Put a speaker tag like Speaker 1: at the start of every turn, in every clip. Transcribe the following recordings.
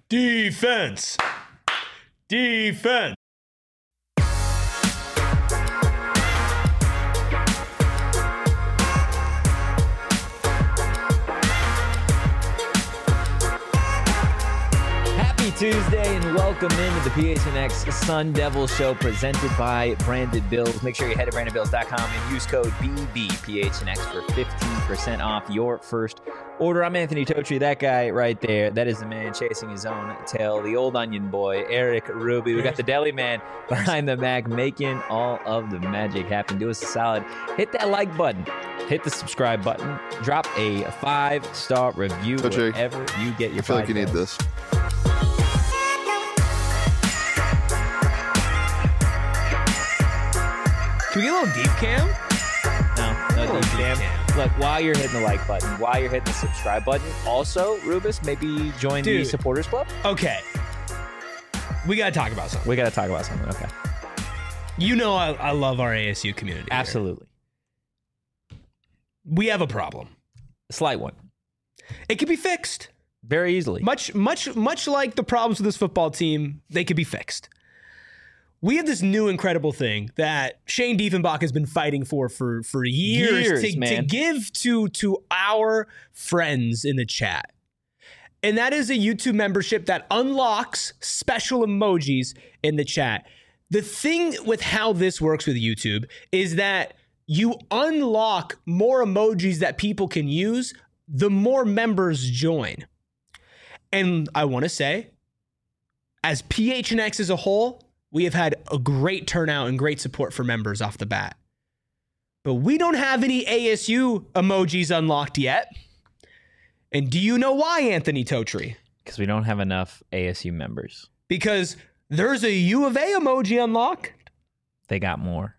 Speaker 1: Defense. Defense.
Speaker 2: Tuesday and welcome into the PHNX Sun Devil Show presented by Branded Bills. Make sure you head to brandedbills.com and use code BBPHNX for 15% off your first order. I'm Anthony Totri, that guy right there. That is the man chasing his own tail, the old onion boy, Eric Ruby. We got the deli man behind the Mac making all of the magic happen. Do us a solid. Hit that like button. Hit the subscribe button. Drop a 5-star review wherever you get your
Speaker 3: I feel like you need this.
Speaker 1: Can we get a little deep cam?
Speaker 2: No deep cam. Look, while you're hitting the like button, while you're hitting the subscribe button, also, Rubus, maybe join the supporters club?
Speaker 1: Okay. We got to talk about something.
Speaker 2: Okay.
Speaker 1: You know I love our ASU community.
Speaker 2: Absolutely.
Speaker 1: Here. We have a problem.
Speaker 2: A slight one.
Speaker 1: It can be fixed.
Speaker 2: Very easily.
Speaker 1: Much like the problems with this football team, they could be fixed. We have this new incredible thing that Shane Diefenbach has been fighting for years to give to our friends in the chat. And that is a YouTube membership that unlocks special emojis in the chat. The thing with how this works with YouTube is that you unlock more emojis that people can use, the more members join. And I want to say, as PHNX as a whole, we have had a great turnout and great support for members off the bat. But we don't have any ASU emojis unlocked yet. And do you know why, Anthony Totri?
Speaker 2: Because we don't have enough ASU members.
Speaker 1: Because there's a U of A emoji unlocked.
Speaker 2: They got more.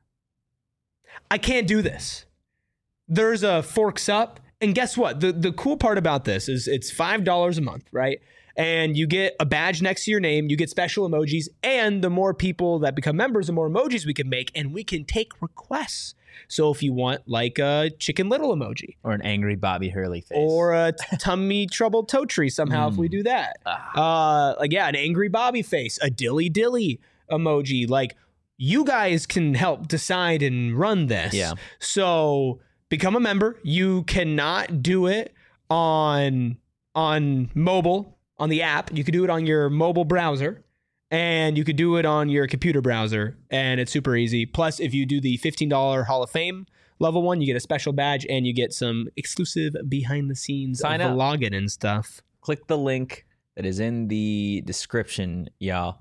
Speaker 1: I can't do this. There's a Forks Up. And guess what? The cool part about this is it's $5 a month, right? And you get a badge next to your name, you get special emojis, and the more people that become members, the more emojis we can make, and we can take requests. So if you want like a Chicken Little emoji.
Speaker 2: Or an angry Bobby Hurley face.
Speaker 1: Or a tummy troubled Totri somehow if we do that. An angry Bobby face, a dilly dilly emoji. Like, you guys can help decide and run this.
Speaker 2: Yeah.
Speaker 1: So become a member. You cannot do it on mobile. On the app, you could do it on your mobile browser, and you could do it on your computer browser, and it's super easy. Plus, if you do the $15 Hall of Fame level one, you get a special badge, and you get some exclusive behind-the-scenes vlogging and stuff.
Speaker 2: Click the link that is in the description, y'all.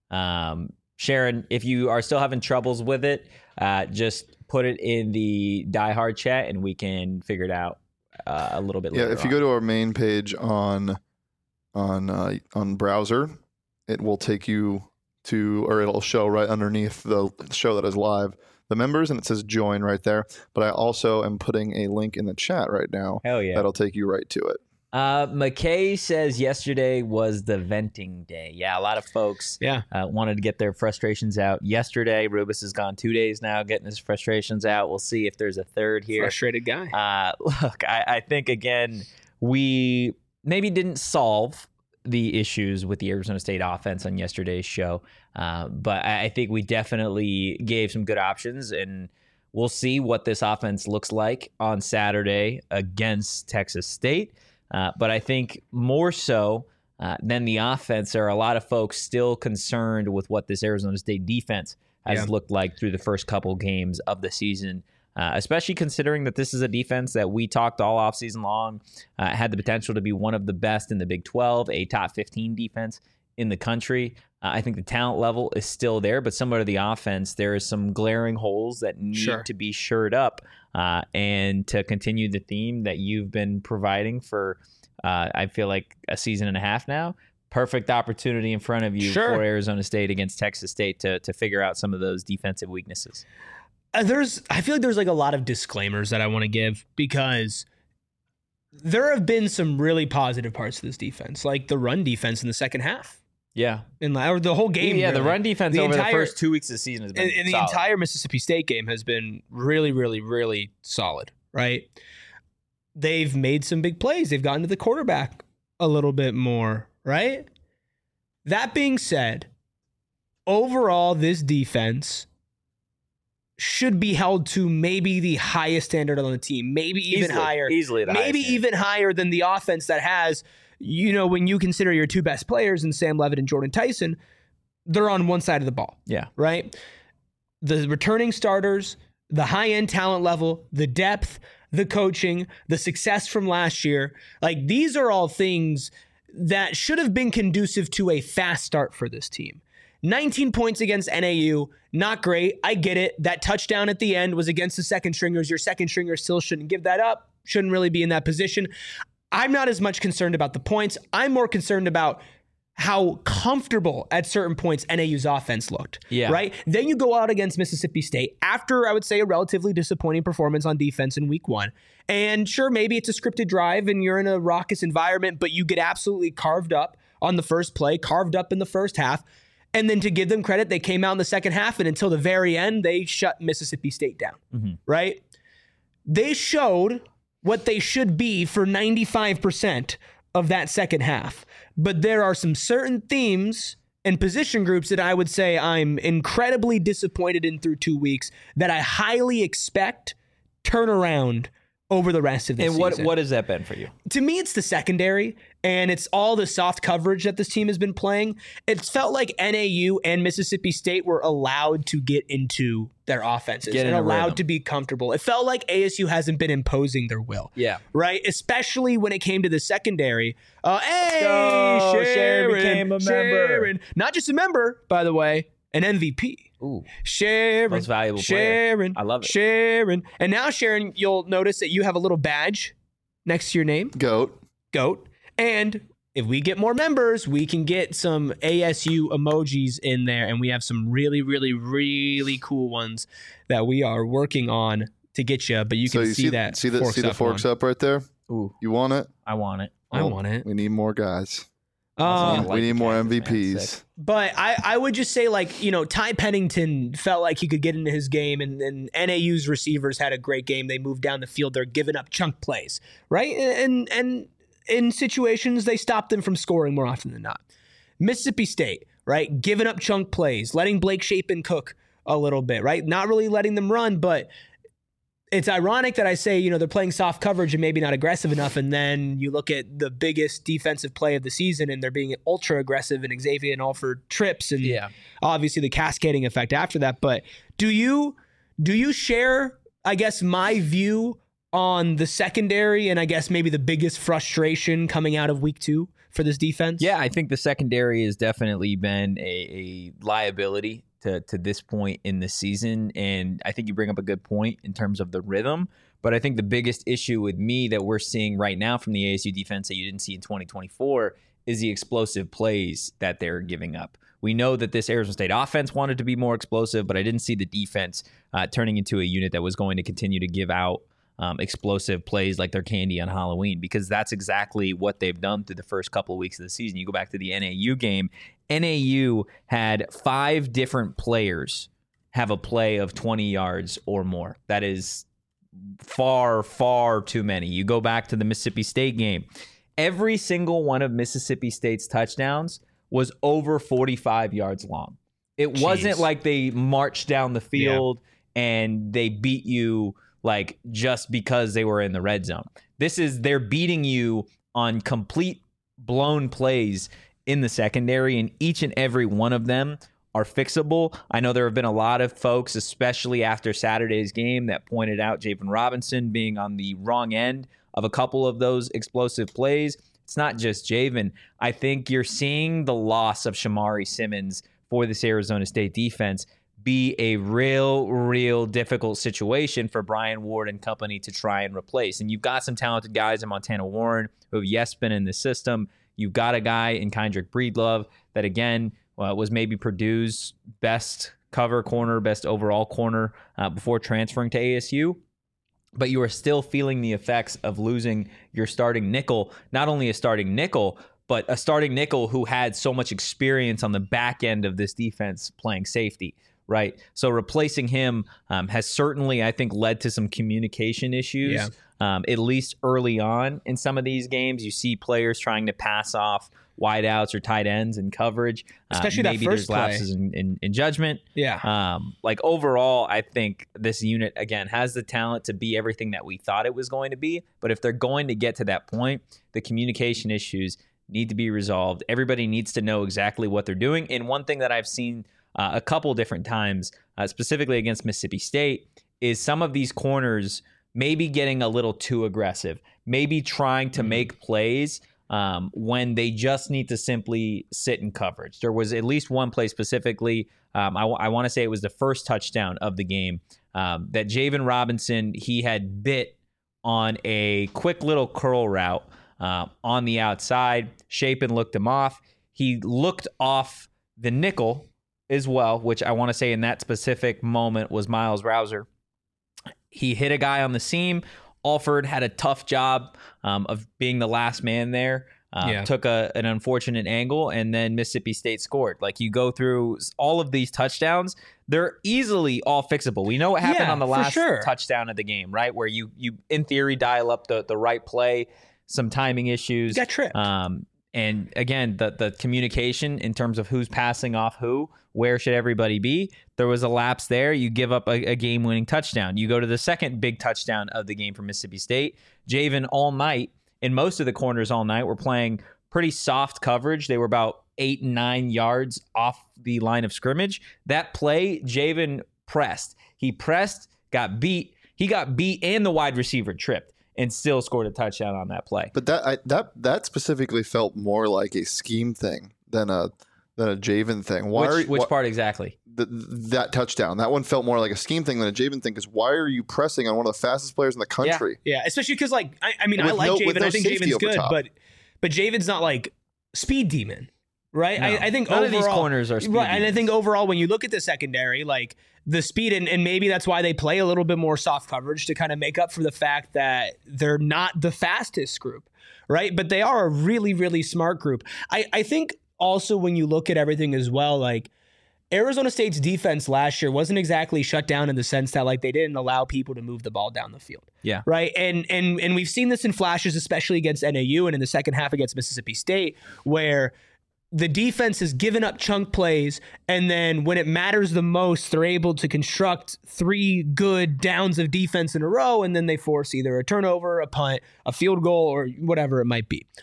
Speaker 2: Sharon, if you are still having troubles with it, just put it in the Die Hard chat, and we can figure it out a little bit later.
Speaker 3: Yeah, if you go to our main page on browser, it will take you to, or it'll show right underneath the show that is live, the members, and it says join right there. But I also am putting a link in the chat right now.
Speaker 2: Hell yeah.
Speaker 3: That'll take you right to it.
Speaker 2: McKay says yesterday was the venting day. Yeah, a lot of folks wanted to get their frustrations out yesterday. Rubus has gone 2 days now getting his frustrations out. We'll see if there's a third here.
Speaker 1: Frustrated guy.
Speaker 2: Look, I think, again, we maybe didn't solve the issues with the Arizona State offense on yesterday's show, but I think we definitely gave some good options, and we'll see what this offense looks like on Saturday against Texas State. But I think more so than the offense, there are a lot of folks still concerned with what this Arizona State defense has looked like through the first couple games of the season. Especially considering that this is a defense that we talked all offseason long, had the potential to be one of the best in the Big 12, a top 15 defense in the country. I think the talent level is still there, but similar to the offense, there is some glaring holes that need to be shored up. And to continue the theme that you've been providing for, I feel like, a season and a half now, perfect opportunity in front of you for Arizona State against Texas State to figure out some of those defensive weaknesses.
Speaker 1: I feel like there's like a lot of disclaimers that I want to give, because there have been some really positive parts of this defense, like the run defense in the second half.
Speaker 2: Yeah.
Speaker 1: Or the whole game.
Speaker 2: Yeah, really. The run defense over the first 2 weeks of the season has been
Speaker 1: and the entire Mississippi State game has been really, really, really solid, right? They've made some big plays. They've gotten to the quarterback a little bit more, right? That being said, overall, this defense should be held to maybe the highest standard on the team, maybe even higher.
Speaker 2: Easily
Speaker 1: maybe even higher than the offense that has, when you consider your two best players in Sam Levitt and Jordan Tyson, they're on one side of the ball.
Speaker 2: Yeah.
Speaker 1: Right? The returning starters, the high-end talent level, the depth, the coaching, the success from last year, like these are all things that should have been conducive to a fast start for this team. 19 points against NAU, not great. I get it. That touchdown at the end was against the second stringers. Your second stringer still shouldn't give that up, shouldn't really be in that position. I'm not as much concerned about the points. I'm more concerned about how comfortable at certain points NAU's offense looked.
Speaker 2: Yeah.
Speaker 1: Right? Then you go out against Mississippi State after, I would say, a relatively disappointing performance on defense in week 1. And sure, maybe it's a scripted drive and you're in a raucous environment, but you get absolutely carved up on the first play, carved up in the first half. And then to give them credit, they came out in the second half, and until the very end, they shut Mississippi State down. Mm-hmm. Right? They showed what they should be for 95% of that second half. But there are some certain themes and position groups that I would say I'm incredibly disappointed in through 2 weeks that I highly expect turn around over the rest of the season.
Speaker 2: And what has that been for you?
Speaker 1: To me, it's the secondary, and it's all the soft coverage that this team has been playing. It's felt like NAU and Mississippi State were allowed to get into their offenses and allowed to be comfortable. It felt like ASU hasn't been imposing their will.
Speaker 2: Yeah.
Speaker 1: Right? Especially when it came to the secondary.
Speaker 2: Sharon became a member.
Speaker 1: Not just a member, by the way, an MVP.
Speaker 2: Ooh.
Speaker 1: Sharon.
Speaker 2: Most valuable player.
Speaker 1: Sharon.
Speaker 2: I love it.
Speaker 1: Sharon. And now, Sharon, you'll notice that you have a little badge next to your name.
Speaker 3: Goat.
Speaker 1: And if we get more members, we can get some ASU emojis in there. And we have some really, really, really cool ones that we are working on to get you. But you can see that.
Speaker 3: See the forks up right there?
Speaker 2: Ooh.
Speaker 3: You want it?
Speaker 2: I want it.
Speaker 1: I want it.
Speaker 3: We need more guys.
Speaker 2: We
Speaker 3: need more MVPs.
Speaker 1: But I would just say, Ty Pennington felt like he could get into his game, and NAU's receivers had a great game. They moved down the field. They're giving up chunk plays, right? And in situations, they stop them from scoring more often than not. Mississippi State, right? Giving up chunk plays, letting Blake Shapen cook a little bit, right? Not really letting them run, but it's ironic that I say, they're playing soft coverage and maybe not aggressive enough. And then you look at the biggest defensive play of the season and they're being ultra aggressive and Xavier and Alford trips and obviously the cascading effect after that. But do you share, I guess, my view on the secondary and I guess maybe the biggest frustration coming out of week 2 for this defense?
Speaker 2: Yeah, I think the secondary has definitely been a liability to this point in the season. And I think you bring up a good point in terms of the rhythm. But I think the biggest issue with me that we're seeing right now from the ASU defense that you didn't see in 2024 is the explosive plays that they're giving up. We know that this Arizona State offense wanted to be more explosive, but I didn't see the defense turning into a unit that was going to continue to give out explosive plays like their candy on Halloween, because that's exactly what they've done through the first couple of weeks of the season. You go back to the NAU game. NAU had 5 different players have a play of 20 yards or more. That is far, far too many. You go back to the Mississippi State game. Every single one of Mississippi State's touchdowns was over 45 yards long. It wasn't like they marched down the field and they beat you like just because they were in the red zone. They're beating you on complete blown plays in the secondary, and each and every one of them are fixable. I know there have been a lot of folks, especially after Saturday's game, that pointed out Javen Robinson being on the wrong end of a couple of those explosive plays. It's not just Javen. I think you're seeing the loss of Shamari Simmons for this Arizona State defense be a real difficult situation for Brian Ward and company to try and replace. And you've got some talented guys in Montana Warren who have been in the system. You've got a guy in Kendrick Breedlove that, again, was maybe Purdue's best cover corner, best overall corner before transferring to ASU. But you are still feeling the effects of losing your starting nickel, not only a starting nickel, but a starting nickel who had so much experience on the back end of this defense playing safety. Right. So replacing him has certainly, I think, led to some communication issues at least early on in some of these games. You see players trying to pass off wideouts or tight ends in coverage.
Speaker 1: Especially
Speaker 2: maybe
Speaker 1: that first
Speaker 2: there's lapses in judgment.
Speaker 1: Yeah.
Speaker 2: Like overall, I think this unit, again, has the talent to be everything that we thought it was going to be. But if they're going to get to that point, the communication issues need to be resolved. Everybody needs to know exactly what they're doing. And one thing that I've seen a couple different times, specifically against Mississippi State, is some of these corners maybe getting a little too aggressive, maybe trying to make plays when they just need to simply sit in coverage. There was at least one play specifically, I want to say it was the first touchdown of the game, that Javen Robinson, he had bit on a quick little curl route on the outside. Shapen looked him off. He looked off the nickel as well, which I want to say in that specific moment was Miles Rouser. He hit a guy on the seam. Alford had a tough job of being the last man there. Took an unfortunate angle, and then Mississippi State scored. Like, you go through all of these touchdowns, they're easily all fixable. We know what happened on the last touchdown of the game, right? Where you in theory dial up the right play, some timing issues.
Speaker 1: You got tripped.
Speaker 2: And again, the communication in terms of who's passing off who, where should everybody be? There was a lapse there. You give up a game-winning touchdown. You go to the second big touchdown of the game for Mississippi State. Javen all night, in most of the corners all night, were playing pretty soft coverage. They were about 8 and 9 yards off the line of scrimmage. That play, Javen pressed. He pressed, got beat. He got beat and the wide receiver tripped, and still scored a touchdown on that play.
Speaker 3: But that specifically felt more like a scheme thing than a Javen thing.
Speaker 2: Which part exactly?
Speaker 3: That touchdown. That one felt more like a scheme thing than a Javen thing, because why are you pressing on one of the fastest players in the country?
Speaker 1: Yeah, especially because, like, I mean, I like Javen. I think Javen's good, but Javen's not like speed demon, right?
Speaker 2: No,
Speaker 1: I think
Speaker 2: none
Speaker 1: overall,
Speaker 2: of these corners are speed
Speaker 1: right, and I
Speaker 2: demons.
Speaker 1: think overall, when you look at the secondary, like the speed, and maybe that's why they play a little bit more soft coverage to kind of make up for the fact that they're not the fastest group, right? But they are a really, really smart group. I think also when you look at everything as well, like Arizona State's defense last year wasn't exactly shut down in the sense that, like, they didn't allow people to move the ball down the field.
Speaker 2: Yeah.
Speaker 1: Right. And we've seen this in flashes, especially against NAU and in the second half against Mississippi State, where the defense has given up chunk plays, and then when it matters the most, they're able to construct 3 good downs of defense in a row, and then they force either a turnover, a punt, a field goal, or whatever it might be.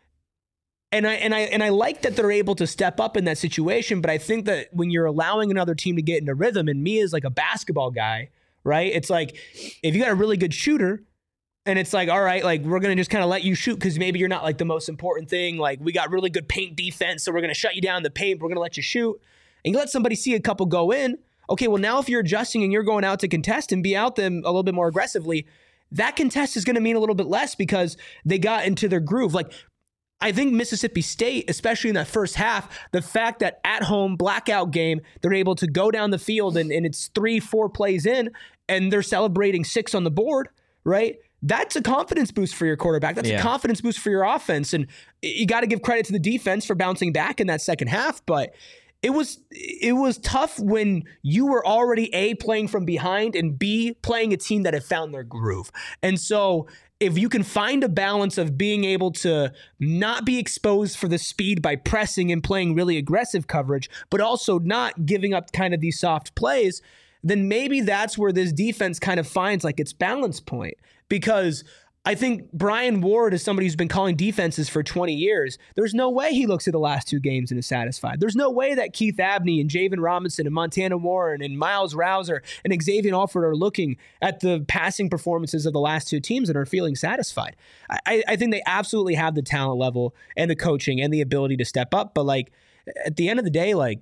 Speaker 1: And I like that they're able to step up in that situation, but I think that when you're allowing another team to get into rhythm, and me as like a basketball guy, right? It's like, if you got a really good shooter, and it's like, all right, like, we're going to just kind of let you shoot because maybe you're not like the most important thing. Like, we got really good paint defense, so we're going to shut you down in the paint. We're going to let you shoot. And you let somebody see a couple go in. Okay, well, now if you're adjusting and you're going out to contest and be out them a little bit more aggressively, that contest is going to mean a little bit less because they got into their groove. Like, I think Mississippi State, especially in that first half, the fact that at home, blackout game, they're able to go down the field and it's 3-4 plays in and they're celebrating 6 on the board, right? That's a confidence boost for your quarterback. That's a confidence boost for your offense. And you got to give credit to the defense for bouncing back in that second half. But it was tough when you were already A, playing from behind, and B, playing a team that had found their groove. And so if you can find a balance of being able to not be exposed for the speed by pressing and playing really aggressive coverage, but also not giving up kind of these soft plays, then maybe that's where this defense kind of finds like its balance point. Because I think Brian Ward is somebody who's been calling defenses for 20 years. There's no way he looks at the last 2 games and is satisfied. There's no way that Keith Abney and Javen Robinson and Montana Warren and Miles Rouser and Xavier Alford are looking at the passing performances of the last 2 teams and are feeling satisfied. I think they absolutely have the talent level and the coaching and the ability to step up. But like, at the end of the day, like,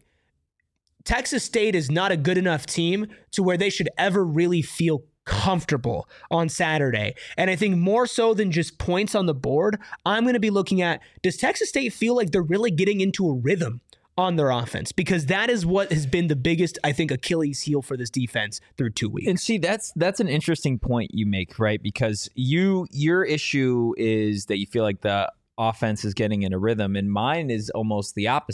Speaker 1: Texas State is not a good enough team to where they should ever really feel comfortable on Saturday. And I think more so than just points on the board, I'm going to be looking at, does Texas State feel like they're really getting into a rhythm on their offense? Because that is what has been the biggest, I think, Achilles heel for this defense through 2 weeks.
Speaker 2: And see, that's an interesting point you make, right? Because your issue is that you feel like the offense is getting in a rhythm, and mine is almost the opposite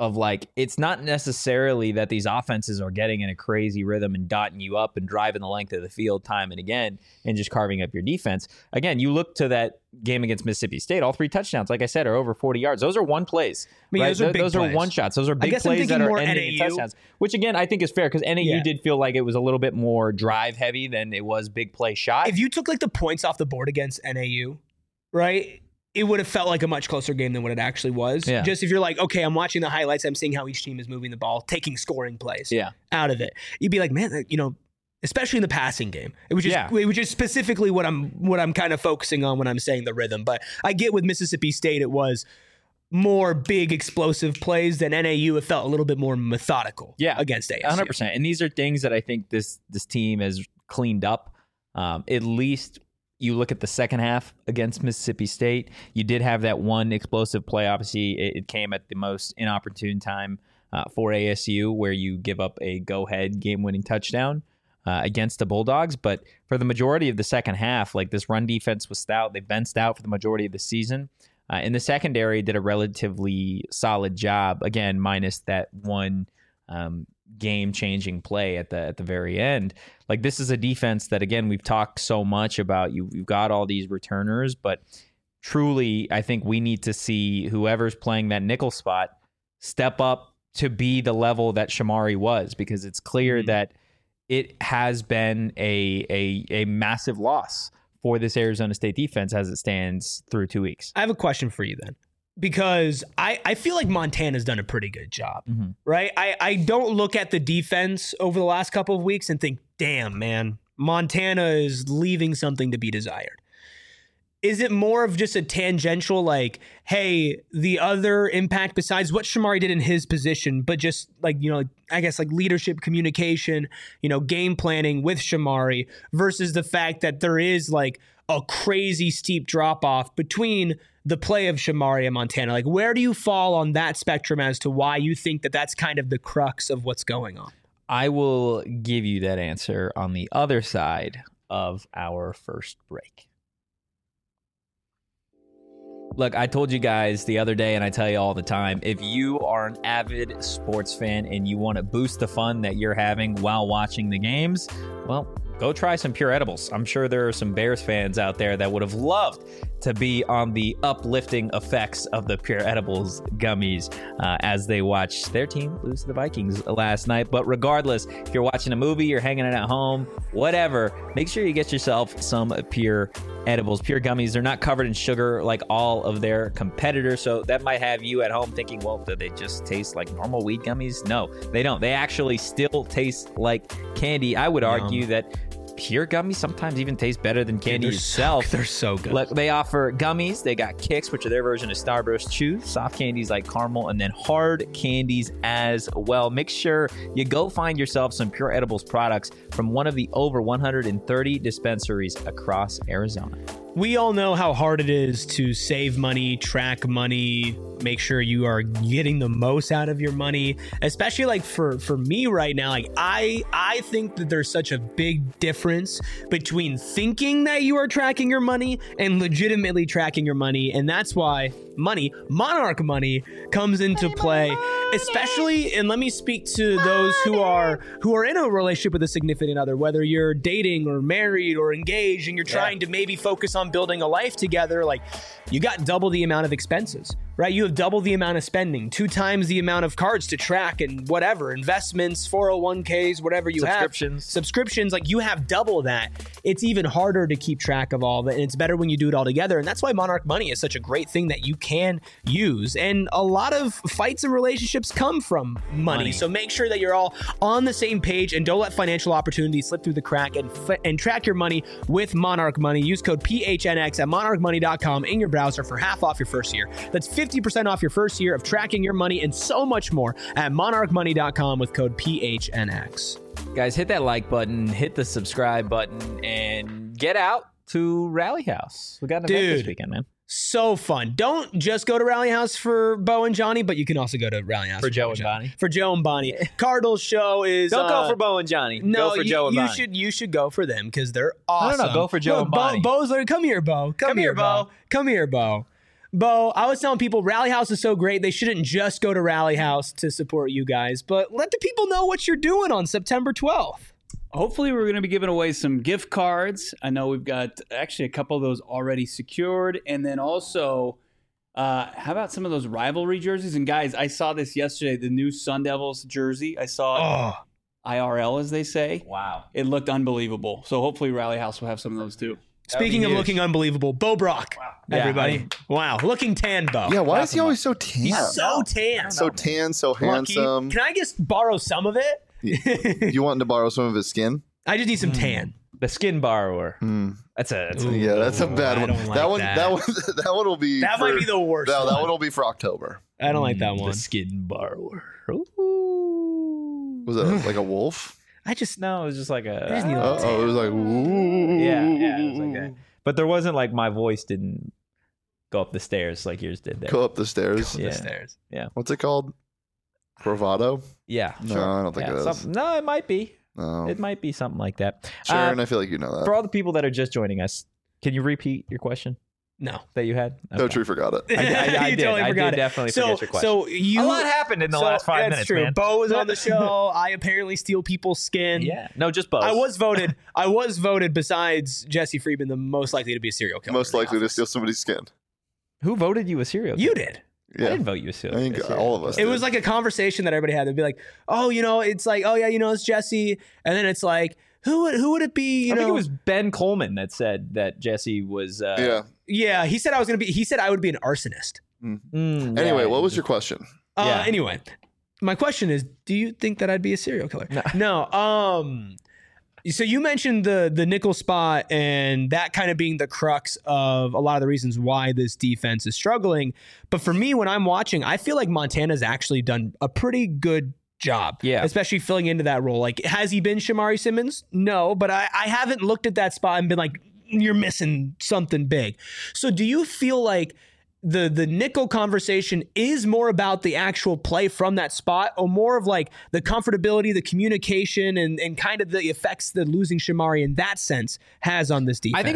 Speaker 2: of like, it's not necessarily that these offenses are getting in a crazy rhythm and dotting you up and driving the length of the field time and again and just carving up your defense. Again, you look to that game against Mississippi State, all 3 touchdowns, like I said, are over 40 yards. Those are one plays. I mean, right? Those are one shots. Those are big plays that are ending in touchdowns, which again, I think is fair because NAU did feel like it was a little bit more drive heavy than it was big play shot.
Speaker 1: If you took like the points off the board against NAU, right, it would have felt like a much closer game than what it actually was. Yeah. Just if you're like, okay, I'm watching the highlights, I'm seeing how each team is moving the ball, taking scoring plays out of it. You'd be like, man, you know, especially in the passing game, which is specifically what I'm kind of focusing on when I'm saying the rhythm. But I get with Mississippi State, it was more big explosive plays than NAU. It felt a little bit more methodical against ASU.
Speaker 2: 100%. And these are things that I think this team has cleaned up. At least you look at the second half against Mississippi State, you did have that one explosive play. Obviously, it came at the most inopportune time for ASU, where you give up a go-ahead game-winning touchdown against the Bulldogs. But for the majority of the second half, like, this run defense was stout. They've been stout for the majority of the season. And the secondary did a relatively solid job, again, minus that one game-changing play at the very end. Like, this is a defense that, again, we've talked so much about. You've got all these returners, but truly, I think we need to see whoever's playing that nickel spot step up to be the level that Shamari was, because it's clear that it has been a massive loss for this Arizona State defense as it stands through 2 weeks.
Speaker 1: I have a question for you then, because I feel like Montana's done a pretty good job, right? I don't look at the defense over the last couple of weeks and think, damn, man, Montana is leaving something to be desired. Is it more of just a tangential, like, hey, the other impact besides what Shamari did in his position, but just like, you know, I guess like leadership, communication, you know, game planning with Shamari, versus the fact that there is like a crazy steep drop off between the play of Shamari and Montana? Like, where do you fall on that spectrum as to why you think that that's kind of the crux of what's going on?
Speaker 2: I will give you that answer on the other side of our first break. Look, I told you guys the other day, and I tell you all the time, if you are an avid sports fan and you want to boost the fun that you're having while watching the games, well, go try some Pure Edibles. I'm sure there are some Bears fans out there that would have loved to be on the uplifting effects of the Pure Edibles gummies as they watch their team lose to the Vikings last night. But regardless, if you're watching a movie, you're hanging out at home, whatever, make sure you get yourself some Pure Edibles. Pure gummies, they're not covered in sugar like all of their competitors, so that might have you at home thinking, well, do they just taste like normal weed gummies? No, they don't. They actually still taste like candy. I would argue that Pure gummies sometimes even taste better than candy itself.
Speaker 1: They're so good.
Speaker 2: Look, they offer gummies. They got Kicks, which are their version of Starburst Chews, soft candies like caramel, and then hard candies as well. Make sure you go find yourself some Pure Edibles products from one of the over 130 dispensaries across Arizona.
Speaker 1: We all know how hard it is to save money, track money, make sure you are getting the most out of your money, especially like for me right now. Like, I think that there's such a big difference between thinking that you are tracking your money and legitimately tracking your money. And that's why Monarch Money comes into play, especially, and let me speak to those who are in a relationship with a significant other, whether you're dating or married or engaged and you're trying to maybe focus on building a life together. Like, you got double the amount of expenses, right? You have double the amount of spending, 2 times the amount of cards to track and whatever, investments, 401ks, whatever you have. Subscriptions, like, you have double that. It's even harder to keep track of all of it, and it's better when you do it all together. And that's why Monarch Money is such a great thing that you can use. And a lot of fights and relationships come from money. So make sure that you're all on the same page and don't let financial opportunities slip through the crack, and track your money with Monarch Money. Use code PHNX at monarchmoney.com in your browser for half off your first year. That's 50% off your first year of tracking your money and so much more at monarchmoney.com with code PHNX.
Speaker 2: Guys, hit that like button, hit the subscribe button, and get out to Rally House. We got an event this weekend, man.
Speaker 1: So fun. Don't just go to Rally House for Bo and Johnny, but you can also go to Rally House
Speaker 2: for Joe and Bonnie.
Speaker 1: For Joe and Bonnie. Cardinals show is...
Speaker 2: Don't go for Bo and Johnny.
Speaker 1: No,
Speaker 2: go for Joe and Bonnie.
Speaker 1: You should go for them because they're awesome.
Speaker 2: No, go for Joe and Bonnie.
Speaker 1: Bo's like, come here, Bo. Come here, Bo. Come here, Bo. Bo, I was telling people Rally House is so great. They shouldn't just go to Rally House to support you guys, but let the people know what you're doing on September 12th.
Speaker 4: Hopefully, we're going to be giving away some gift cards. I know we've got actually a couple of those already secured. And then also, how about some of those rivalry jerseys? And guys, I saw this yesterday, the new Sun Devils jersey. I saw it IRL, as they say.
Speaker 2: Wow.
Speaker 4: It looked unbelievable. So hopefully, Rally House will have some of those too.
Speaker 1: Speaking of looking unbelievable, Bo Brock, everybody. Wow, looking tan, Bo.
Speaker 3: Yeah, why is he always so tan?
Speaker 1: He's so tan.
Speaker 3: So tan, so handsome.
Speaker 1: Can I just borrow some of it?
Speaker 3: You wanting to borrow some of his skin?
Speaker 1: I just need some tan.
Speaker 2: The skin borrower. That's a
Speaker 3: bad one. That one will be.
Speaker 1: That might be the worst.
Speaker 3: That one will be for October.
Speaker 1: I don't like that one.
Speaker 2: The skin borrower.
Speaker 3: Was it like a wolf?
Speaker 2: No, it was just like a.
Speaker 1: I just need a
Speaker 3: it was like ooh.
Speaker 2: Yeah, it was like that. But there wasn't like my voice didn't go up the stairs like yours did there.
Speaker 3: Go up the stairs.
Speaker 2: Yeah.
Speaker 1: The stairs.
Speaker 2: Yeah.
Speaker 3: What's it called? Bravado?
Speaker 2: Yeah.
Speaker 3: No,
Speaker 2: Sure.
Speaker 3: I don't think it is.
Speaker 2: No, it might be.
Speaker 3: No.
Speaker 2: It might be something like that.
Speaker 3: Sharon, I feel like you know that.
Speaker 2: For all the people that are just joining us, can you repeat your question
Speaker 1: No.
Speaker 2: that you had?
Speaker 3: Coach, we forgot it.
Speaker 2: I
Speaker 1: You
Speaker 2: did.
Speaker 1: totally
Speaker 2: I
Speaker 1: forgot
Speaker 2: did
Speaker 1: it.
Speaker 2: definitely forget your question.
Speaker 1: So
Speaker 2: a lot happened in the last 5 minutes,
Speaker 1: that's true.
Speaker 2: man.
Speaker 1: Bo was on the show. I apparently steal people's skin.
Speaker 2: Yeah. No, just both.
Speaker 1: I was voted besides Jesse Friedman the most likely to be a serial killer.
Speaker 3: Most likely to steal somebody's skin.
Speaker 2: Who voted you a serial killer?
Speaker 1: You did.
Speaker 3: Yeah.
Speaker 2: I didn't vote you a serial
Speaker 3: I think
Speaker 2: killer.
Speaker 3: all of us
Speaker 1: It
Speaker 3: did.
Speaker 1: was like a conversation that everybody had. They'd be like, "Oh, it's like, oh yeah, it's Jesse," and then it's like, who would it be?
Speaker 2: I think it was Ben Coleman that said that Jesse was.
Speaker 3: Yeah.
Speaker 1: He said he said I would be an arsonist.
Speaker 3: Anyway, what was your question?
Speaker 2: Yeah.
Speaker 1: Anyway, my question is, do you think that I'd be a serial killer? No. So you mentioned the nickel spot and that kind of being the crux of a lot of the reasons why this defense is struggling. But for me, when I'm watching, I feel like Montana's actually done a pretty good job.
Speaker 2: Yeah.
Speaker 1: Especially filling into that role. Like, has he been Shamari Simmons? No, but I haven't looked at that spot and been like, you're missing something big. So do you feel like the nickel conversation is more about the actual play from that spot, or more of like the comfortability, the communication, and kind of the effects that losing Shamari in that sense has on this defense?
Speaker 2: I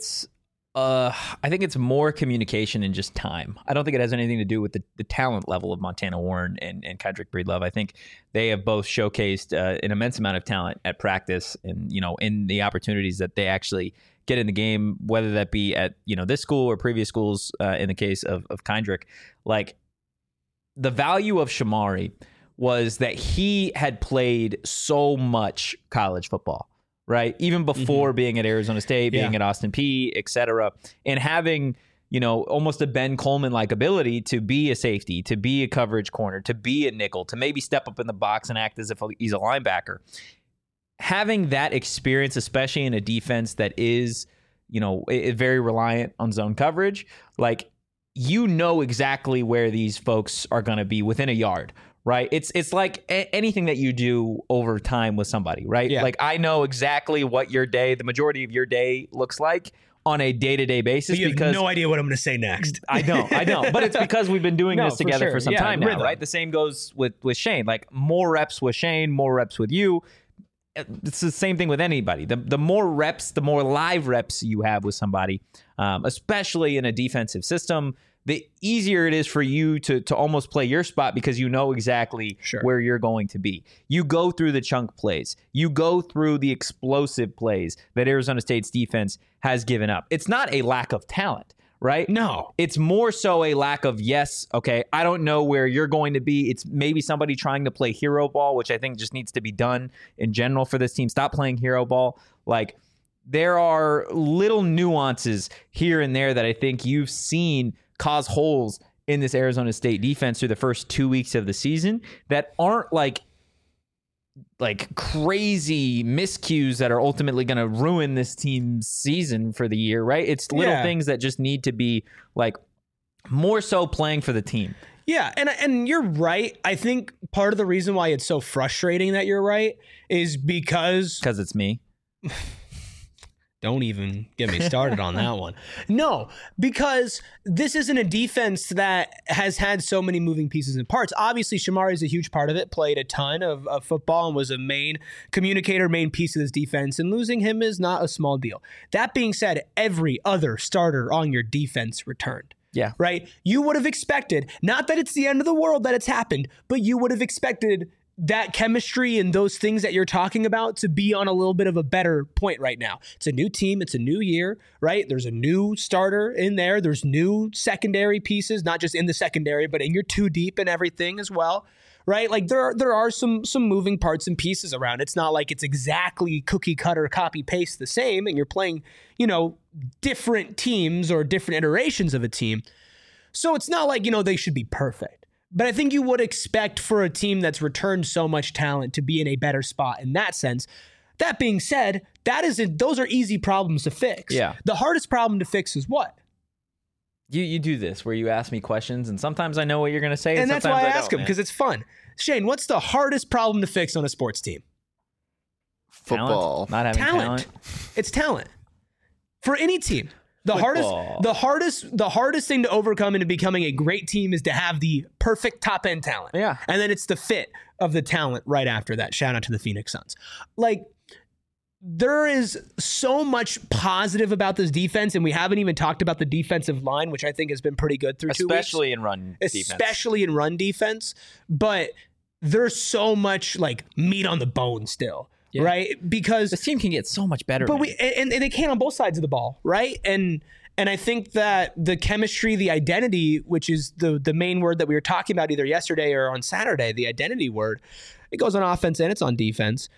Speaker 2: think it's more communication and just time. I don't think it has anything to do with the talent level of Montana Warren and Kendrick Breedlove. I think they have both showcased an immense amount of talent at practice and, in the opportunities that they actually get in the game, whether that be at, this school or previous schools, in the case of Kendrick. Like, the value of Shamari was that he had played so much college football, right? Even before being at Arizona State, being at Austin Peay, et cetera, and having, almost a Ben Coleman-like ability to be a safety, to be a coverage corner, to be a nickel, to maybe step up in the box and act as if he's a linebacker. Having that experience, especially in a defense that is, very reliant on zone coverage, like, exactly where these folks are going to be within a yard, right? It's like anything that you do over time with somebody, right?
Speaker 1: Yeah.
Speaker 2: Like, I know exactly what the majority of your day looks like on a day-to-day basis.
Speaker 1: But you have no idea what I'm going to say next.
Speaker 2: I don't. But it's because we've been doing this together for some time now,
Speaker 1: rhythm.
Speaker 2: right? The same goes with Shane. Like, more reps with Shane, more reps with you. It's the same thing with anybody. The more reps, the more live reps you have with somebody, especially in a defensive system, the easier it is for you to almost play your spot because you know exactly where you're going to be. You go through the chunk plays. You go through the explosive plays that Arizona State's defense has given up. It's not a lack of talent, right?
Speaker 1: No.
Speaker 2: It's more so a lack of, I don't know where you're going to be. It's maybe somebody trying to play hero ball, which I think just needs to be done in general for this team. Stop playing hero ball. Like, there are little nuances here and there that I think you've seen cause holes in this Arizona State defense through the first 2 weeks of the season that aren't like crazy miscues that are ultimately going to ruin this team's season for the year, right? It's little things that just need to be like more so playing for the team.
Speaker 1: Yeah, and you're right. I think part of the reason why it's so frustrating that you're right is because
Speaker 2: it's me.
Speaker 1: Don't even get me started on that one. No, because this isn't a defense that has had so many moving pieces and parts. Obviously, Shamari is a huge part of it, played a ton of football and was a main communicator, main piece of this defense, and losing him is not a small deal. That being said, every other starter on your defense returned.
Speaker 2: Yeah.
Speaker 1: Right? You would have expected, not that it's the end of the world that it's happened, but you would have expected that chemistry and those things that you're talking about to be on a little bit of a better point right now. It's a new team. It's a new year, right? There's a new starter in there. There's new secondary pieces, not just in the secondary, but in your two deep and everything as well, right? Like there are some moving parts and pieces around. It's not like it's exactly cookie cutter, copy paste the same, and you're playing, different teams or different iterations of a team. So it's not like, they should be perfect. But I think you would expect for a team that's returned so much talent to be in a better spot in that sense. That being said, those are easy problems to fix.
Speaker 2: Yeah.
Speaker 1: The hardest problem to fix is what?
Speaker 2: You do this where you ask me questions, and sometimes I know what you're going to say,
Speaker 1: and that's why I ask them, because it's fun. Shane, what's the hardest problem to fix on a sports team?
Speaker 3: Football.
Speaker 2: Not having talent.
Speaker 1: It's talent for any team. The hardest thing to overcome into becoming a great team is to have the perfect top end talent.
Speaker 2: Yeah.
Speaker 1: And then it's the fit of the talent right after that. Shout out to the Phoenix Suns. Like, there is so much positive about this defense, and we haven't even talked about the defensive line, which I think has been pretty good through 2 weeks.
Speaker 2: Especially in run defense.
Speaker 1: Especially in run defense. But there's so much like meat on the bone still. Yeah. Right? Because
Speaker 2: this team can get so much better.
Speaker 1: But and they can on both sides of the ball, right? And I think that the chemistry, the identity, which is the main word that we were talking about either yesterday or on Saturday, the identity word, it goes on offense and it's on defense.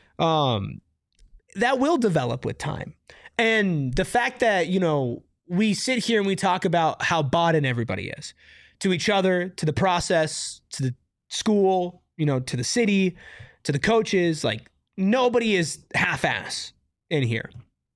Speaker 1: That will develop with time. And the fact that, we sit here and we talk about how bought in everybody is to each other, to the process, to the school, to the city, to the coaches, like, nobody is half-ass in here.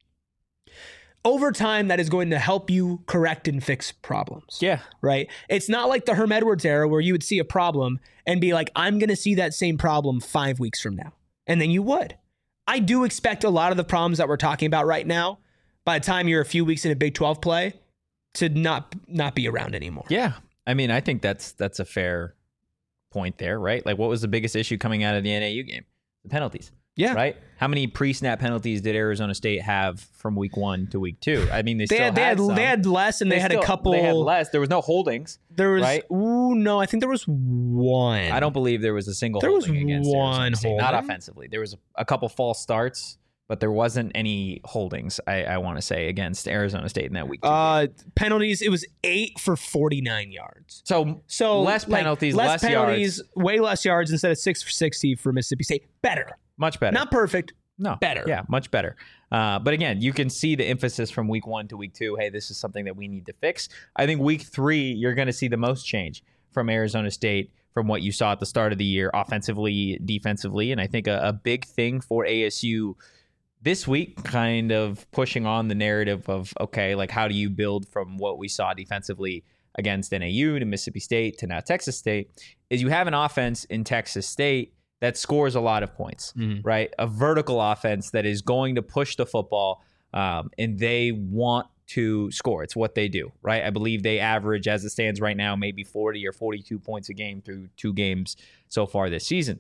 Speaker 1: Over time, that is going to help you correct and fix problems.
Speaker 2: Yeah.
Speaker 1: Right? It's not like the Herm Edwards era where you would see a problem and be like, I'm going to see that same problem 5 weeks from now. And then you would. I do expect a lot of the problems that we're talking about right now, by the time you're a few weeks in a Big 12 play, to not be around anymore.
Speaker 2: Yeah. I mean, I think that's a fair point there, right? Like, what was the biggest issue coming out of the NAU game? The penalties.
Speaker 1: Yeah.
Speaker 2: Right? How many pre-snap penalties did Arizona State have from week 1 to week 2? I mean, they
Speaker 1: had less, and they had a couple.
Speaker 2: They had less. There was no holdings.
Speaker 1: There was,
Speaker 2: right?
Speaker 1: Ooh, no, I think there was one.
Speaker 2: I don't believe there was a single holding against Arizona State.
Speaker 1: Holding.
Speaker 2: Not offensively. There was a couple false starts, but there wasn't any holdings, I want to say, against Arizona State in that week 2 game.
Speaker 1: Penalties, it was 8 for 49 yards.
Speaker 2: So less penalties, less yards.
Speaker 1: Way less yards instead of 6 for 60 for Mississippi State. Better.
Speaker 2: Much better.
Speaker 1: Not perfect.
Speaker 2: No.
Speaker 1: Better.
Speaker 2: Yeah, much better. But again, you can see the emphasis from week 1 to week 2. Hey, this is something that we need to fix. I think week 3, you're going to see the most change from Arizona State from what you saw at the start of the year, offensively, defensively. And I think a big thing for ASU this week, kind of pushing on the narrative of, okay, like, how do you build from what we saw defensively against NAU to Mississippi State to now Texas State, is you have an offense in Texas State that scores a lot of points, right? A vertical offense that is going to push the football, and they want to score. It's what they do, right? I believe they average, as it stands right now, maybe 40 or 42 points a game through 2 games so far this season.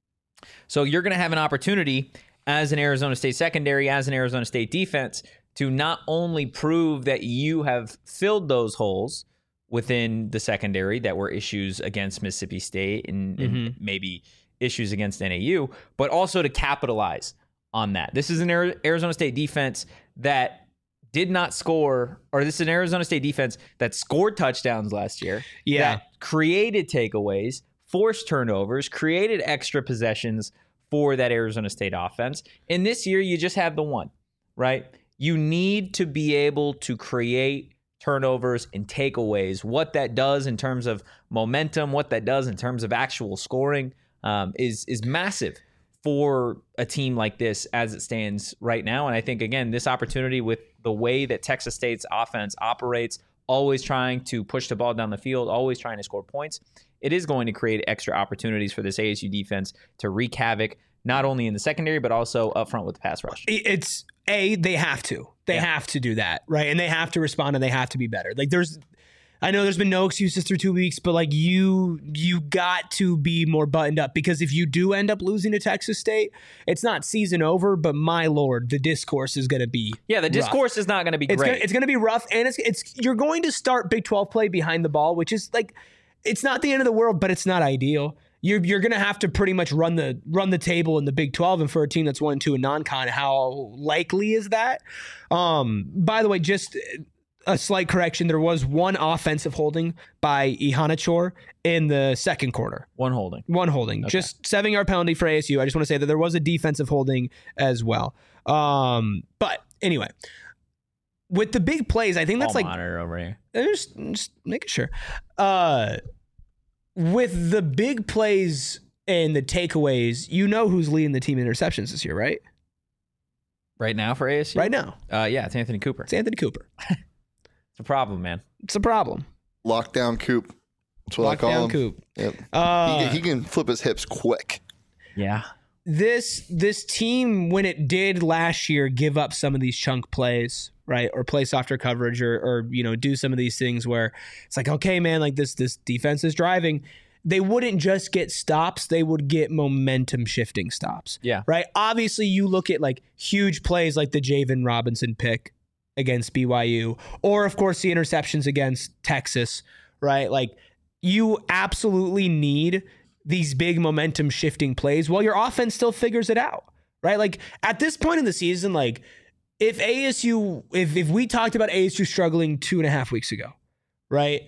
Speaker 2: So you're going to have an opportunity as an Arizona State secondary, as an Arizona State defense, to not only prove that you have filled those holes within the secondary that were issues against Mississippi State and maybe issues against NAU, but also to capitalize on that. This is an Arizona State defense that did not score, or this is an Arizona State defense that scored touchdowns last year.
Speaker 1: Yeah.
Speaker 2: That created takeaways, forced turnovers, created extra possessions for that Arizona State offense. And this year, you just have the one, right? You need to be able to create turnovers and takeaways. What that does in terms of momentum, what that does in terms of actual scoring, is massive for a team like this as it stands right now. And I think, again, this opportunity with the way that Texas State's offense operates, always trying to push the ball down the field, always trying to score points, it is going to create extra opportunities for this ASU defense to wreak havoc, not only in the secondary, but also up front with the pass rush.
Speaker 1: They have to. They have to do that, right? And they have to respond, and they have to be better. Like, I know there's been no excuses through 2 weeks, but like you got to be more buttoned up, because if you do end up losing to Texas State, it's not season over, but my Lord, the discourse is going to be
Speaker 2: the discourse is not going to be great.
Speaker 1: It's going to be rough, and you're going to start Big 12 play behind the ball, which is like, it's not the end of the world, but it's not ideal. You're going to have to pretty much run the table in the Big 12, and for a team that's 1-2 in non-con, how likely is that? By the way, just a slight correction. There was one offensive holding by Ihanachor in the second quarter.
Speaker 2: One holding.
Speaker 1: Okay. Just 7-yard penalty for ASU. I just want to say that there was a defensive holding as well. But anyway, with the big plays, I think that's like
Speaker 2: monitor over here.
Speaker 1: Just making sure. With the big plays and the takeaways, you know who's leading the team in interceptions this year, right?
Speaker 2: Right now for ASU?
Speaker 1: Right now.
Speaker 2: Yeah, it's Anthony Cooper.
Speaker 1: It's Anthony Cooper.
Speaker 2: It's a problem, man.
Speaker 1: It's a problem.
Speaker 3: Lockdown Coop. That's what I call him.
Speaker 1: Coop.
Speaker 3: Yep. He can flip his hips quick.
Speaker 2: Yeah.
Speaker 1: This team, when it did last year, give up some of these chunk plays, right, or play softer coverage, or do some of these things where it's like, okay, man, like this defense is driving. They wouldn't just get stops; they would get momentum shifting stops.
Speaker 2: Yeah.
Speaker 1: Right. Obviously, you look at like huge plays like the Javen Robinson pick against BYU, or of course the interceptions against Texas. Right. Like, you absolutely need these big momentum shifting plays while your offense still figures it out, right? Like, at this point in the season, like, if we talked about ASU struggling 2.5 weeks ago, right,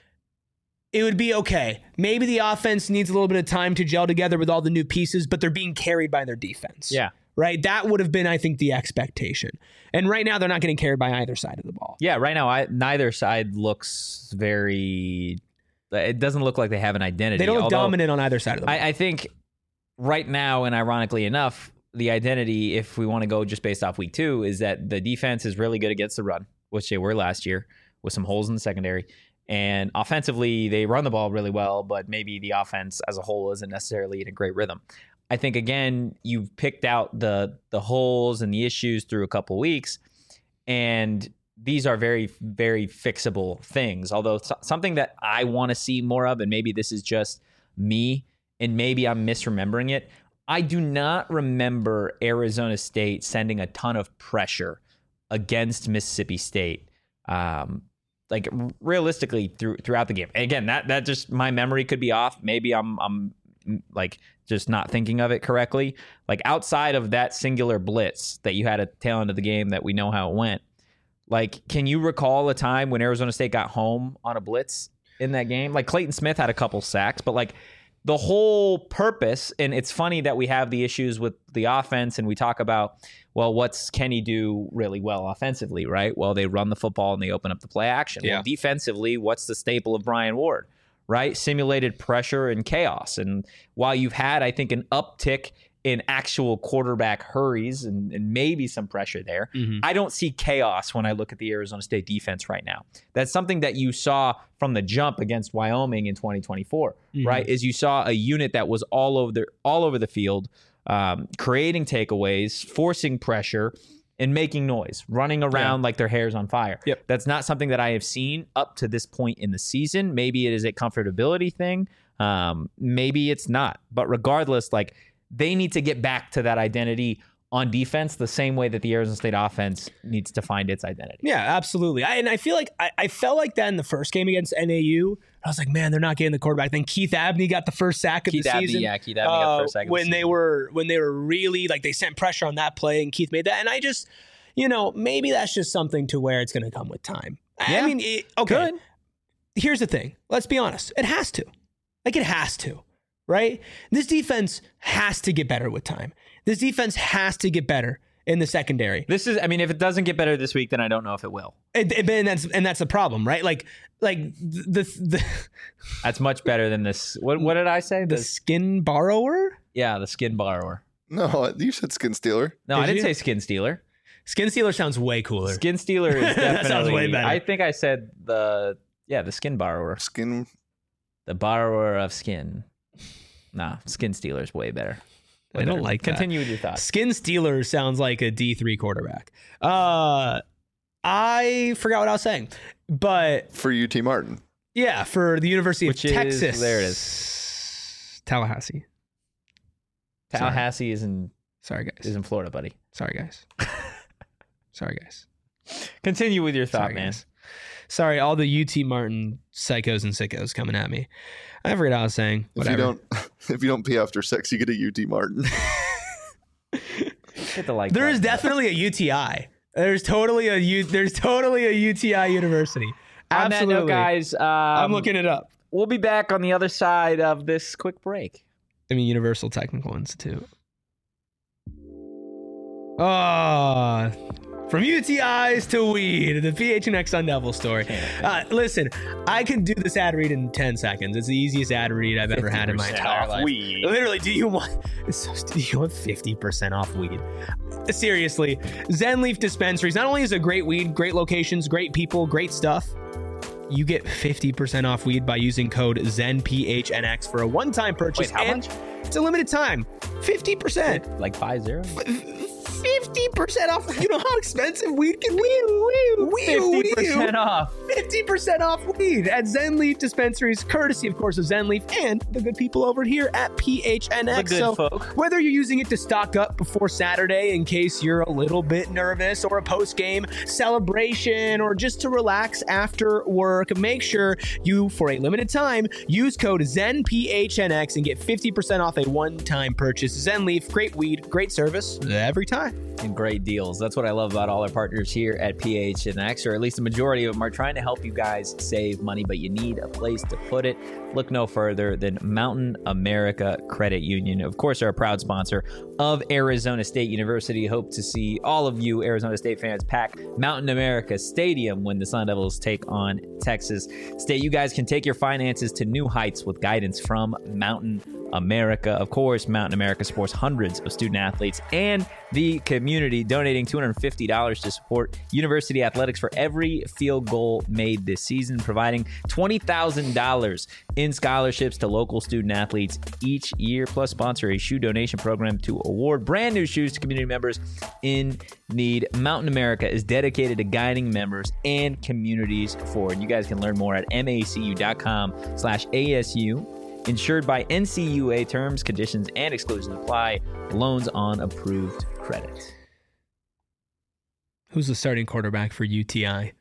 Speaker 1: it would be okay. Maybe the offense needs a little bit of time to gel together with all the new pieces, but they're being carried by their defense.
Speaker 2: Yeah.
Speaker 1: Right? That would have been, I think, the expectation. And right now, they're not getting carried by either side of the ball.
Speaker 2: Yeah, right now, neither side looks very... It doesn't look like they have an identity.
Speaker 1: They don't look dominant on either side of the ball.
Speaker 2: I think right now, and ironically enough, the identity, if we want to go just based off week 2, is that the defense is really good against the run, which they were last year, with some holes in the secondary. And offensively, they run the ball really well, but maybe the offense as a whole isn't necessarily in a great rhythm. I think, again, you've picked out the holes and the issues through a couple weeks, and these are very, very fixable things. Although something that I want to see more of, and maybe this is just me, and maybe I'm misremembering it, I do not remember Arizona State sending a ton of pressure against Mississippi State, like realistically throughout the game. And again, that just, my memory could be off. Maybe I'm like just not thinking of it correctly. Like, outside of that singular blitz that you had at the tail end of the game that we know how it went, like, can you recall a time when Arizona State got home on a blitz in that game? Like, Clayton Smith had a couple sacks, but like the whole purpose, and it's funny that we have the issues with the offense and we talk about, well, what's Kenny do really well offensively, right? Well, they run the football and they open up the play action. Yeah. Well, defensively, what's the staple of Brian Ward, right? Simulated pressure and chaos. And while you've had, I think, an uptick in actual quarterback hurries and maybe some pressure there, I don't see chaos when I look at the Arizona State defense right now. That's something that you saw from the jump against Wyoming in 2024, right? Is you saw a unit that was all over the field, creating takeaways, forcing pressure, and making noise, running around like their hair's on fire.
Speaker 1: Yep.
Speaker 2: That's not something that I have seen up to this point in the season. Maybe it is a comfortability thing. Maybe it's not. But regardless, like, they need to get back to that identity on defense the same way that the Arizona State offense needs to find its identity.
Speaker 1: Yeah, absolutely. I feel like I felt like that in the first game against NAU. I was like, man, they're not getting the quarterback. Then Keith Abney got the first sack of the season.
Speaker 2: Yeah, Keith Abney got the first sack of the season.
Speaker 1: When they were really, like, they sent pressure on that play and Keith made that. And I just, maybe that's just something to where it's going to come with time.
Speaker 2: Yeah.
Speaker 1: I mean, okay. Good. Here's the thing. Let's be honest. It has to. Like, it has to. Right? This defense has to get better with time. This defense has to get better in the secondary.
Speaker 2: If it doesn't get better this week, then I don't know if it will.
Speaker 1: And that's the problem, right? Like the
Speaker 2: that's much better than this. What did I say?
Speaker 1: The skin borrower?
Speaker 2: Yeah, the skin borrower.
Speaker 3: No, you said skin stealer.
Speaker 2: No, I didn't say skin stealer.
Speaker 1: Skin stealer sounds way cooler.
Speaker 2: Skin stealer is definitely.
Speaker 1: That sounds way better.
Speaker 2: I think I said the skin borrower. The borrower of skin. Nah, Skin Stealer's way better.
Speaker 1: I don't like that.
Speaker 2: Continue with your thoughts.
Speaker 1: Skin Stealer sounds like a D3 quarterback. I forgot what I was saying, but
Speaker 3: For UT Martin.
Speaker 1: yeah, for the University of Texas.
Speaker 2: There it is.
Speaker 1: Tallahassee.
Speaker 2: Tallahassee is in Florida, buddy.
Speaker 1: Sorry, guys. Sorry, guys.
Speaker 2: Continue with your thought, man.
Speaker 1: Guys. Sorry, all the UT Martin psychos and sickos coming at me. I forgot what I was saying. Whatever.
Speaker 3: If you don't pee after sex, you get a UT Martin.
Speaker 1: There is definitely a UTI. There's totally a UTI university. Absolutely,
Speaker 2: on that note, guys.
Speaker 1: I'm looking it up.
Speaker 2: We'll be back on the other side of this quick break.
Speaker 1: I mean, Universal Technical Institute. Oh, from UTIs to weed, the PHNX Sun Devil story. Listen, I can do this ad read in 10 seconds. It's the easiest ad read I've ever had in my entire life.
Speaker 2: Weed.
Speaker 1: Literally, do you want 50% off weed? Seriously, Zen Leaf Dispensaries not only is it great weed, great locations, great people, great stuff. You get 50% off weed by using code ZenPHNX for a one-time purchase.
Speaker 2: Wait, how much?
Speaker 1: It's a limited time. 50%.
Speaker 2: Like 50?
Speaker 1: 50% off. You know how expensive weed can be?
Speaker 2: 50% off.
Speaker 1: 50% off weed at Zen Leaf Dispensaries, courtesy, of course, of Zen Leaf and the good people over here at PHNX.
Speaker 2: The good folk.
Speaker 1: Whether you're using it to stock up before Saturday in case you're a little bit nervous, or a post-game celebration, or just to relax after work, make sure you, for a limited time, use code ZenPHNX and get 50% off a one-time purchase. Zen Leaf, great weed, great service every time.
Speaker 2: And great deals. That's what I love about all our partners here at PHNX, or at least the majority of them are trying to help you guys save money, but you need a place to put it. Look no further than Mountain America Credit Union. Of course, they're a proud sponsor of Arizona State University. Hope to see all of you Arizona State fans pack Mountain America Stadium when the Sun Devils take on Texas State. You guys can take your finances to new heights with guidance from Mountain America. Of course, Mountain America supports hundreds of student athletes and the community, donating $250 to support university athletics for every field goal made this season, providing $20,000 in scholarships to local student athletes each year, plus sponsor a shoe donation program to award brand new shoes to community members in need. Mountain America is dedicated to guiding members and communities forward. You guys can learn more at macu.com/ASU. Insured by NCUA. Terms, conditions, and exclusions apply. Loans on approved credit.
Speaker 1: Who's the starting quarterback for UTI?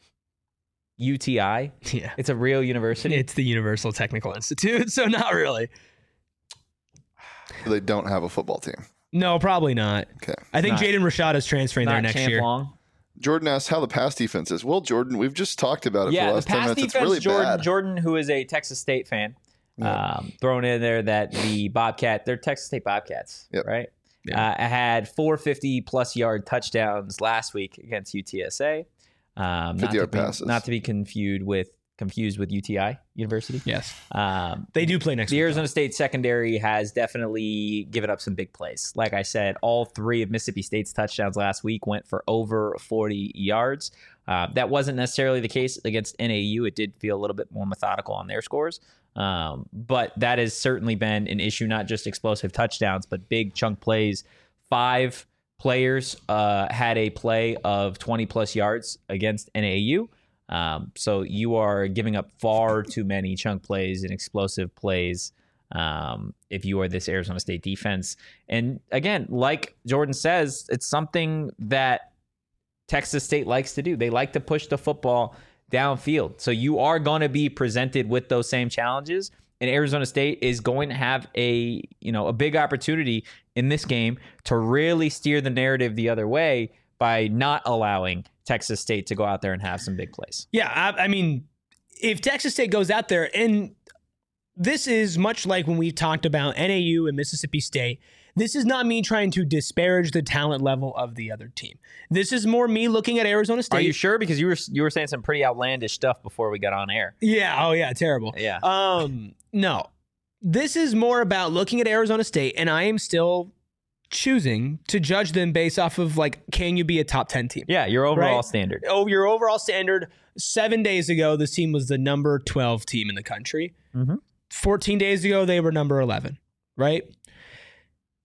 Speaker 2: UTI?
Speaker 1: Yeah.
Speaker 2: It's a real university?
Speaker 1: It's the Universal Technical Institute, so not really.
Speaker 3: They don't have a football team.
Speaker 1: No, probably not.
Speaker 3: Okay.
Speaker 1: I think Jaden Rashad is transferring there next year.
Speaker 2: Long.
Speaker 3: Jordan asks how the pass defense is. Well, Jordan, we've just talked about it for the last 10 minutes.
Speaker 2: Defense,
Speaker 3: it's really bad.
Speaker 2: Jordan, who is a Texas State fan, thrown in there that the they're Texas State Bobcats, right? Yeah. had 450-plus yard touchdowns last week against UTSA.
Speaker 3: 50-yard passes.
Speaker 2: Not to be confused with UTI University.
Speaker 1: Yes. They do play next week.
Speaker 2: The Arizona State secondary has definitely given up some big plays. Like I said, all three of Mississippi State's touchdowns last week went for over 40 yards. That wasn't necessarily the case against NAU. It did feel a little bit more methodical on their scores. But that has certainly been an issue, not just explosive touchdowns, but big chunk plays. 5 players had a play of 20-plus yards against NAU. So you are giving up far too many chunk plays and explosive plays if you are this Arizona State defense. And again, like Jordan says, it's something that Texas State likes to do. They like to push the football downfield. So you are going to be presented with those same challenges. And Arizona State is going to have a big opportunity in this game to really steer the narrative the other way by not allowing Texas State to go out there and have some big plays.
Speaker 1: Yeah, I mean, if Texas State goes out there, and this is much like when we've talked about NAU and Mississippi State, this is not me trying to disparage the talent level of the other team. This is more me looking at Arizona State.
Speaker 2: Are you sure? Because you were saying some pretty outlandish stuff before we got on air.
Speaker 1: Yeah. Oh, yeah. Terrible.
Speaker 2: Yeah.
Speaker 1: No. This is more about looking at Arizona State, and I am still choosing to judge them based off of, like, can you be a top 10 team?
Speaker 2: Yeah, your overall standard.
Speaker 1: Oh, your overall standard. 7 days ago, this team was the number 12 team in the country. 14 days ago, they were number 11, right?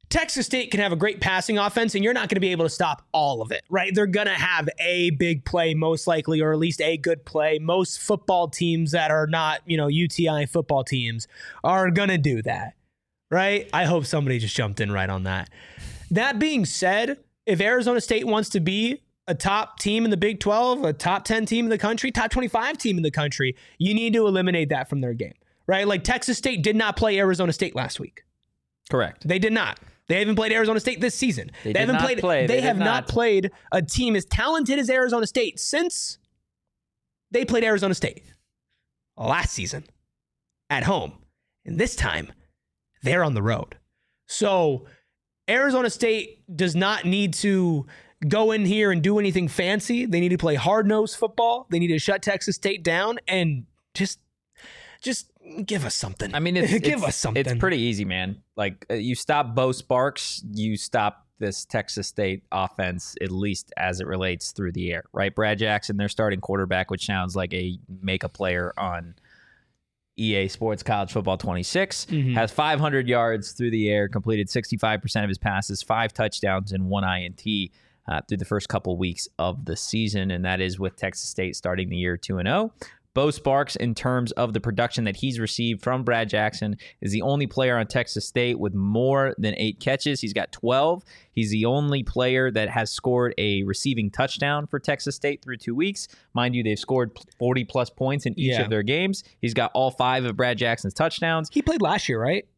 Speaker 1: Texas State can have a great passing offense, and you're not going to be able to stop all of it, right? They're going to have a big play, most likely, or at least a good play. Most football teams that are not, UTI football teams are going to do that, right? I hope somebody just jumped in right on that. That being said, if Arizona State wants to be a top team in the Big 12, a top 10 team in the country, top 25 team in the country, you need to eliminate that from their game, right? Like Texas State did not play Arizona State last week.
Speaker 2: Correct.
Speaker 1: They did not. They haven't played Arizona State this season. They have not played a team as talented as Arizona State since they played Arizona State last season at home. And this time, they're on the road. So Arizona State does not need to go in here and do anything fancy. They need to play hard-nosed football. They need to shut Texas State down and just give us something.
Speaker 2: I mean, give us something. It's pretty easy, man. Like, you stop Bo Sparks, you stop this Texas State offense, at least as it relates through the air, right? Brad Jackson, their starting quarterback, which sounds like a make-a player on EA Sports College Football 26, has 500 yards through the air, completed 65% of his passes, 5 touchdowns, and 1 INT through the first couple weeks of the season, and that is with Texas State starting the year 2-0. Bo Sparks, in terms of the production that he's received from Brad Jackson, is the only player on Texas State with more than 8 catches. He's got 12. He's the only player that has scored a receiving touchdown for Texas State through 2 weeks. Mind you, they've scored 40-plus points in each of their games. He's got all 5 of Brad Jackson's touchdowns.
Speaker 1: He played last year, right?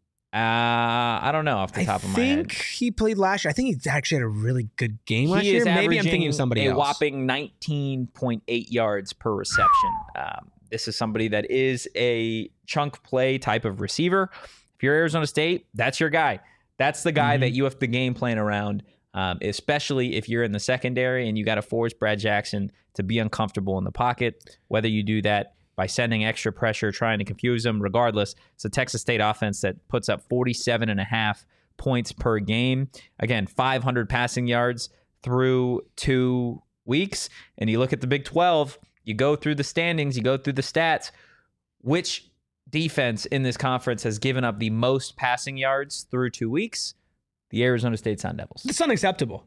Speaker 2: I don't know off the top of my head.
Speaker 1: I think he played last year. I think he actually had a really good game last year. Maybe I'm thinking of somebody else.
Speaker 2: A whopping 19.8 yards per reception. This is somebody that is a chunk play type of receiver. If you're Arizona State, that's your guy. That's the guy that you have to game plan around, especially if you're in the secondary and you got to force Brad Jackson to be uncomfortable in the pocket, whether you do that by sending extra pressure, trying to confuse them. Regardless, it's a Texas State offense that puts up 47.5 points per game. Again, 500 passing yards through 2 weeks. And you look at the Big 12, you go through the standings, you go through the stats. Which defense in this conference has given up the most passing yards through 2 weeks? The Arizona State Sun Devils.
Speaker 1: It's unacceptable.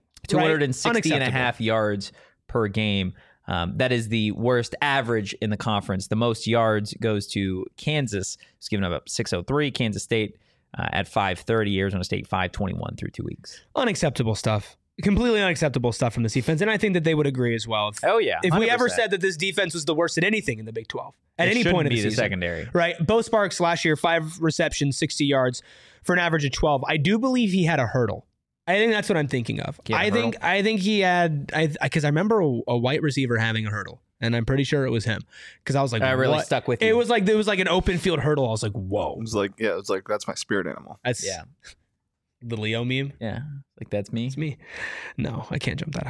Speaker 2: 260.5 yards per game. That is the worst average in the conference. The most yards goes to Kansas. It's given up 603. Kansas State at 530. Arizona State 521 through 2 weeks.
Speaker 1: Unacceptable stuff. Completely unacceptable stuff from this defense. And I think that they would agree as well. If we ever said that this defense was the worst at anything in the Big 12, at any point in the season.
Speaker 2: Secondary.
Speaker 1: Right. Bo Sparks last year, 5 receptions, 60 yards for an average of 12. I do believe he had a hurdle. I think that's what I'm thinking of. I think he had, because I remember a white receiver having a hurdle, and I'm pretty sure it was him. Because I was like,
Speaker 2: I really stuck with you.
Speaker 1: It was like an open field hurdle. I was like, whoa.
Speaker 3: It was like that's my spirit animal.
Speaker 1: That's the Leo meme.
Speaker 2: Yeah, like that's me.
Speaker 1: It's me. No, I can't jump that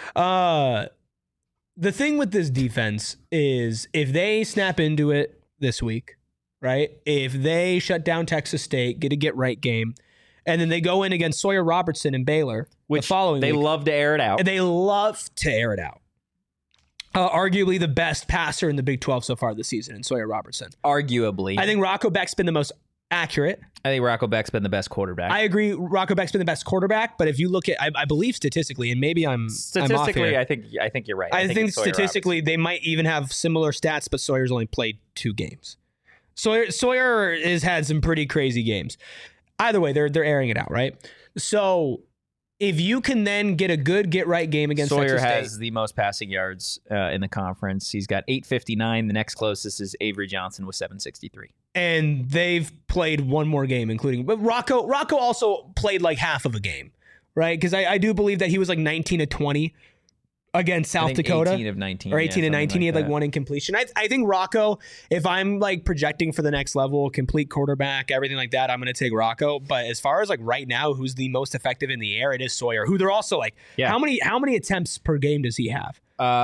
Speaker 1: high. The thing with this defense is if they snap into it this week, right? If they shut down Texas State, get a get-right game, and then they go in against Sawyer Robertson and Baylor the following week.
Speaker 2: They love to air it out.
Speaker 1: And they love to air it out. Arguably the best passer in the Big 12 so far this season in Sawyer Robertson.
Speaker 2: Arguably.
Speaker 1: I think Rocco Beck's been the most accurate.
Speaker 2: I think Rocco Beck's been the best quarterback.
Speaker 1: I agree. Rocco Beck's been the best quarterback, but if you look at, I believe statistically, and maybe I'm off here.
Speaker 2: I think you're right.
Speaker 1: I think statistically they might even have similar stats, but Sawyer's only played 2 games. Sawyer has had some pretty crazy games. Either way, they're airing it out, right? So if you can then get a good get-right game against
Speaker 2: Sawyer
Speaker 1: Texas State.
Speaker 2: has the most passing yards in the conference. He's got 859. The next closest is Avery Johnson with 763.
Speaker 1: And they've played one more game, but Rocco also played like half of a game, right? Because I do believe that he was like 19 of 20 against South Dakota.
Speaker 2: 18 of 19.
Speaker 1: Or 18 of 19. He had like 1 incompletion. I think Rocco, if I'm like projecting for the next level, complete quarterback, everything like that, I'm going to take Rocco. But as far as like right now, who's the most effective in the air, it is Sawyer, who they're also like, how many attempts per game does he have?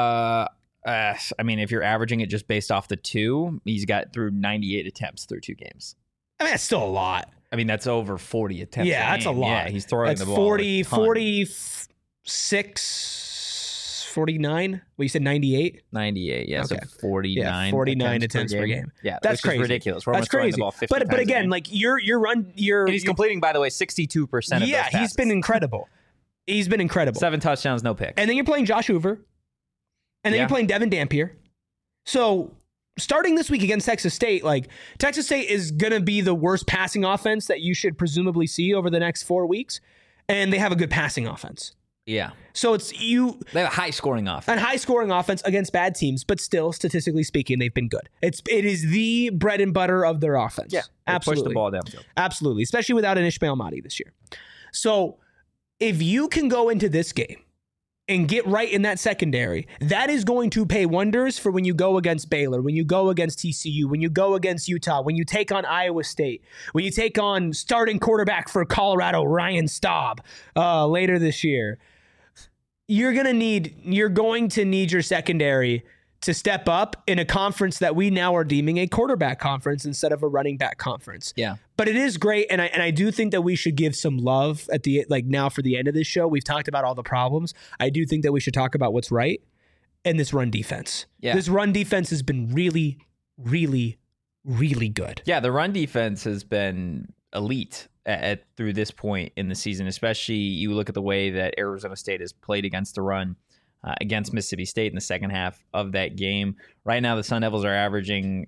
Speaker 2: I mean, if you're averaging it just based off the 2, he's got through 98 attempts through 2 games.
Speaker 1: I mean, that's still a lot.
Speaker 2: I mean, that's over 40 attempts.
Speaker 1: Yeah, that's a lot.
Speaker 2: Yeah, he's throwing the ball.
Speaker 1: 46, 49? Well, you said 98?
Speaker 2: 98, yeah.
Speaker 1: Okay.
Speaker 2: So 49.
Speaker 1: Yeah, 49 attempts per game.
Speaker 2: Yeah,
Speaker 1: that's crazy.
Speaker 2: Ridiculous.
Speaker 1: That's crazy.
Speaker 2: The ball 50
Speaker 1: but again, like your run,
Speaker 2: and he's completing, by the way, 62% of those passes.
Speaker 1: He's been incredible. 7
Speaker 2: touchdowns, no picks.
Speaker 1: And then you're playing Josh Hoover. And then you're playing Devin Dampier. So starting this week against Texas State, like Texas State is going to be the worst passing offense that you should presumably see over the next 4 weeks. And they have a good passing offense.
Speaker 2: Yeah.
Speaker 1: So
Speaker 2: they have a high scoring offense.
Speaker 1: A high scoring offense against bad teams, but still, statistically speaking, they've been good. It is the bread and butter of their offense.
Speaker 2: Yeah.
Speaker 1: Absolutely.
Speaker 2: Push the ball downfield.
Speaker 1: Absolutely. Especially without an Ishmael Mahdi this year. So if you can go into this game and get right in that secondary, that is going to pay wonders for when you go against Baylor, when you go against TCU, when you go against Utah, when you take on Iowa State, when you take on starting quarterback for Colorado, Ryan Staub, later this year. You're going to need your secondary to step up in a conference that we now are deeming a quarterback conference instead of a running back conference.
Speaker 2: Yeah.
Speaker 1: But it is great, and I do think that we should give some love at the now for the end of this show. We've talked about all the problems. I do think that we should talk about what's right in this run defense.
Speaker 2: Yeah.
Speaker 1: This run defense has been really, really, really good.
Speaker 2: Yeah, the run defense has been elite through this point in the season, especially you look at the way that Arizona State has played against the run against Mississippi State in the second half of that game. Right now, the Sun Devils are averaging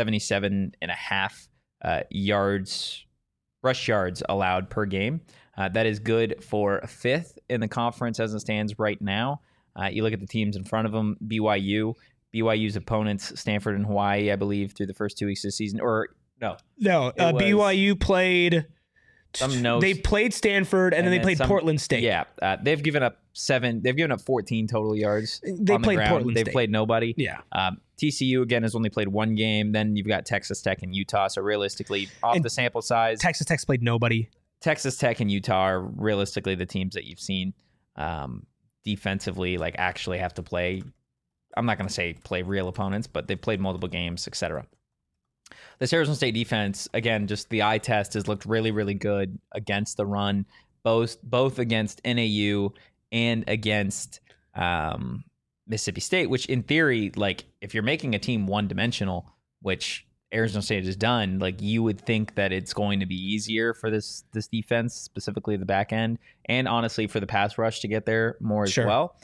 Speaker 2: 77.5 rush yards allowed per game. That is good for 5th in the conference as it stands right now. You look at the teams in front of them, BYU's opponents, Stanford and Hawaii, I believe, through the first 2 weeks of the season.
Speaker 1: BYU played... They played Stanford and then they played Portland State.
Speaker 2: Yeah, they've given up 14 total yards.
Speaker 1: They played Portland State.
Speaker 2: They've played nobody.
Speaker 1: Yeah.
Speaker 2: TCU again has only played 1 game. Then you've got Texas Tech and Utah. So realistically, the sample size,
Speaker 1: Texas Tech's played nobody.
Speaker 2: Texas Tech and Utah are realistically the teams that you've seen defensively actually have to play. I'm not going to say play real opponents, but they've played multiple games, etc. This Arizona State defense, again, just the eye test has looked really, really good against the run, both against NAU and against Mississippi State, which in theory, if you're making a team one-dimensional, which Arizona State has done, you would think that it's going to be easier for this defense, specifically the back end, and honestly for the pass rush to get there more as well.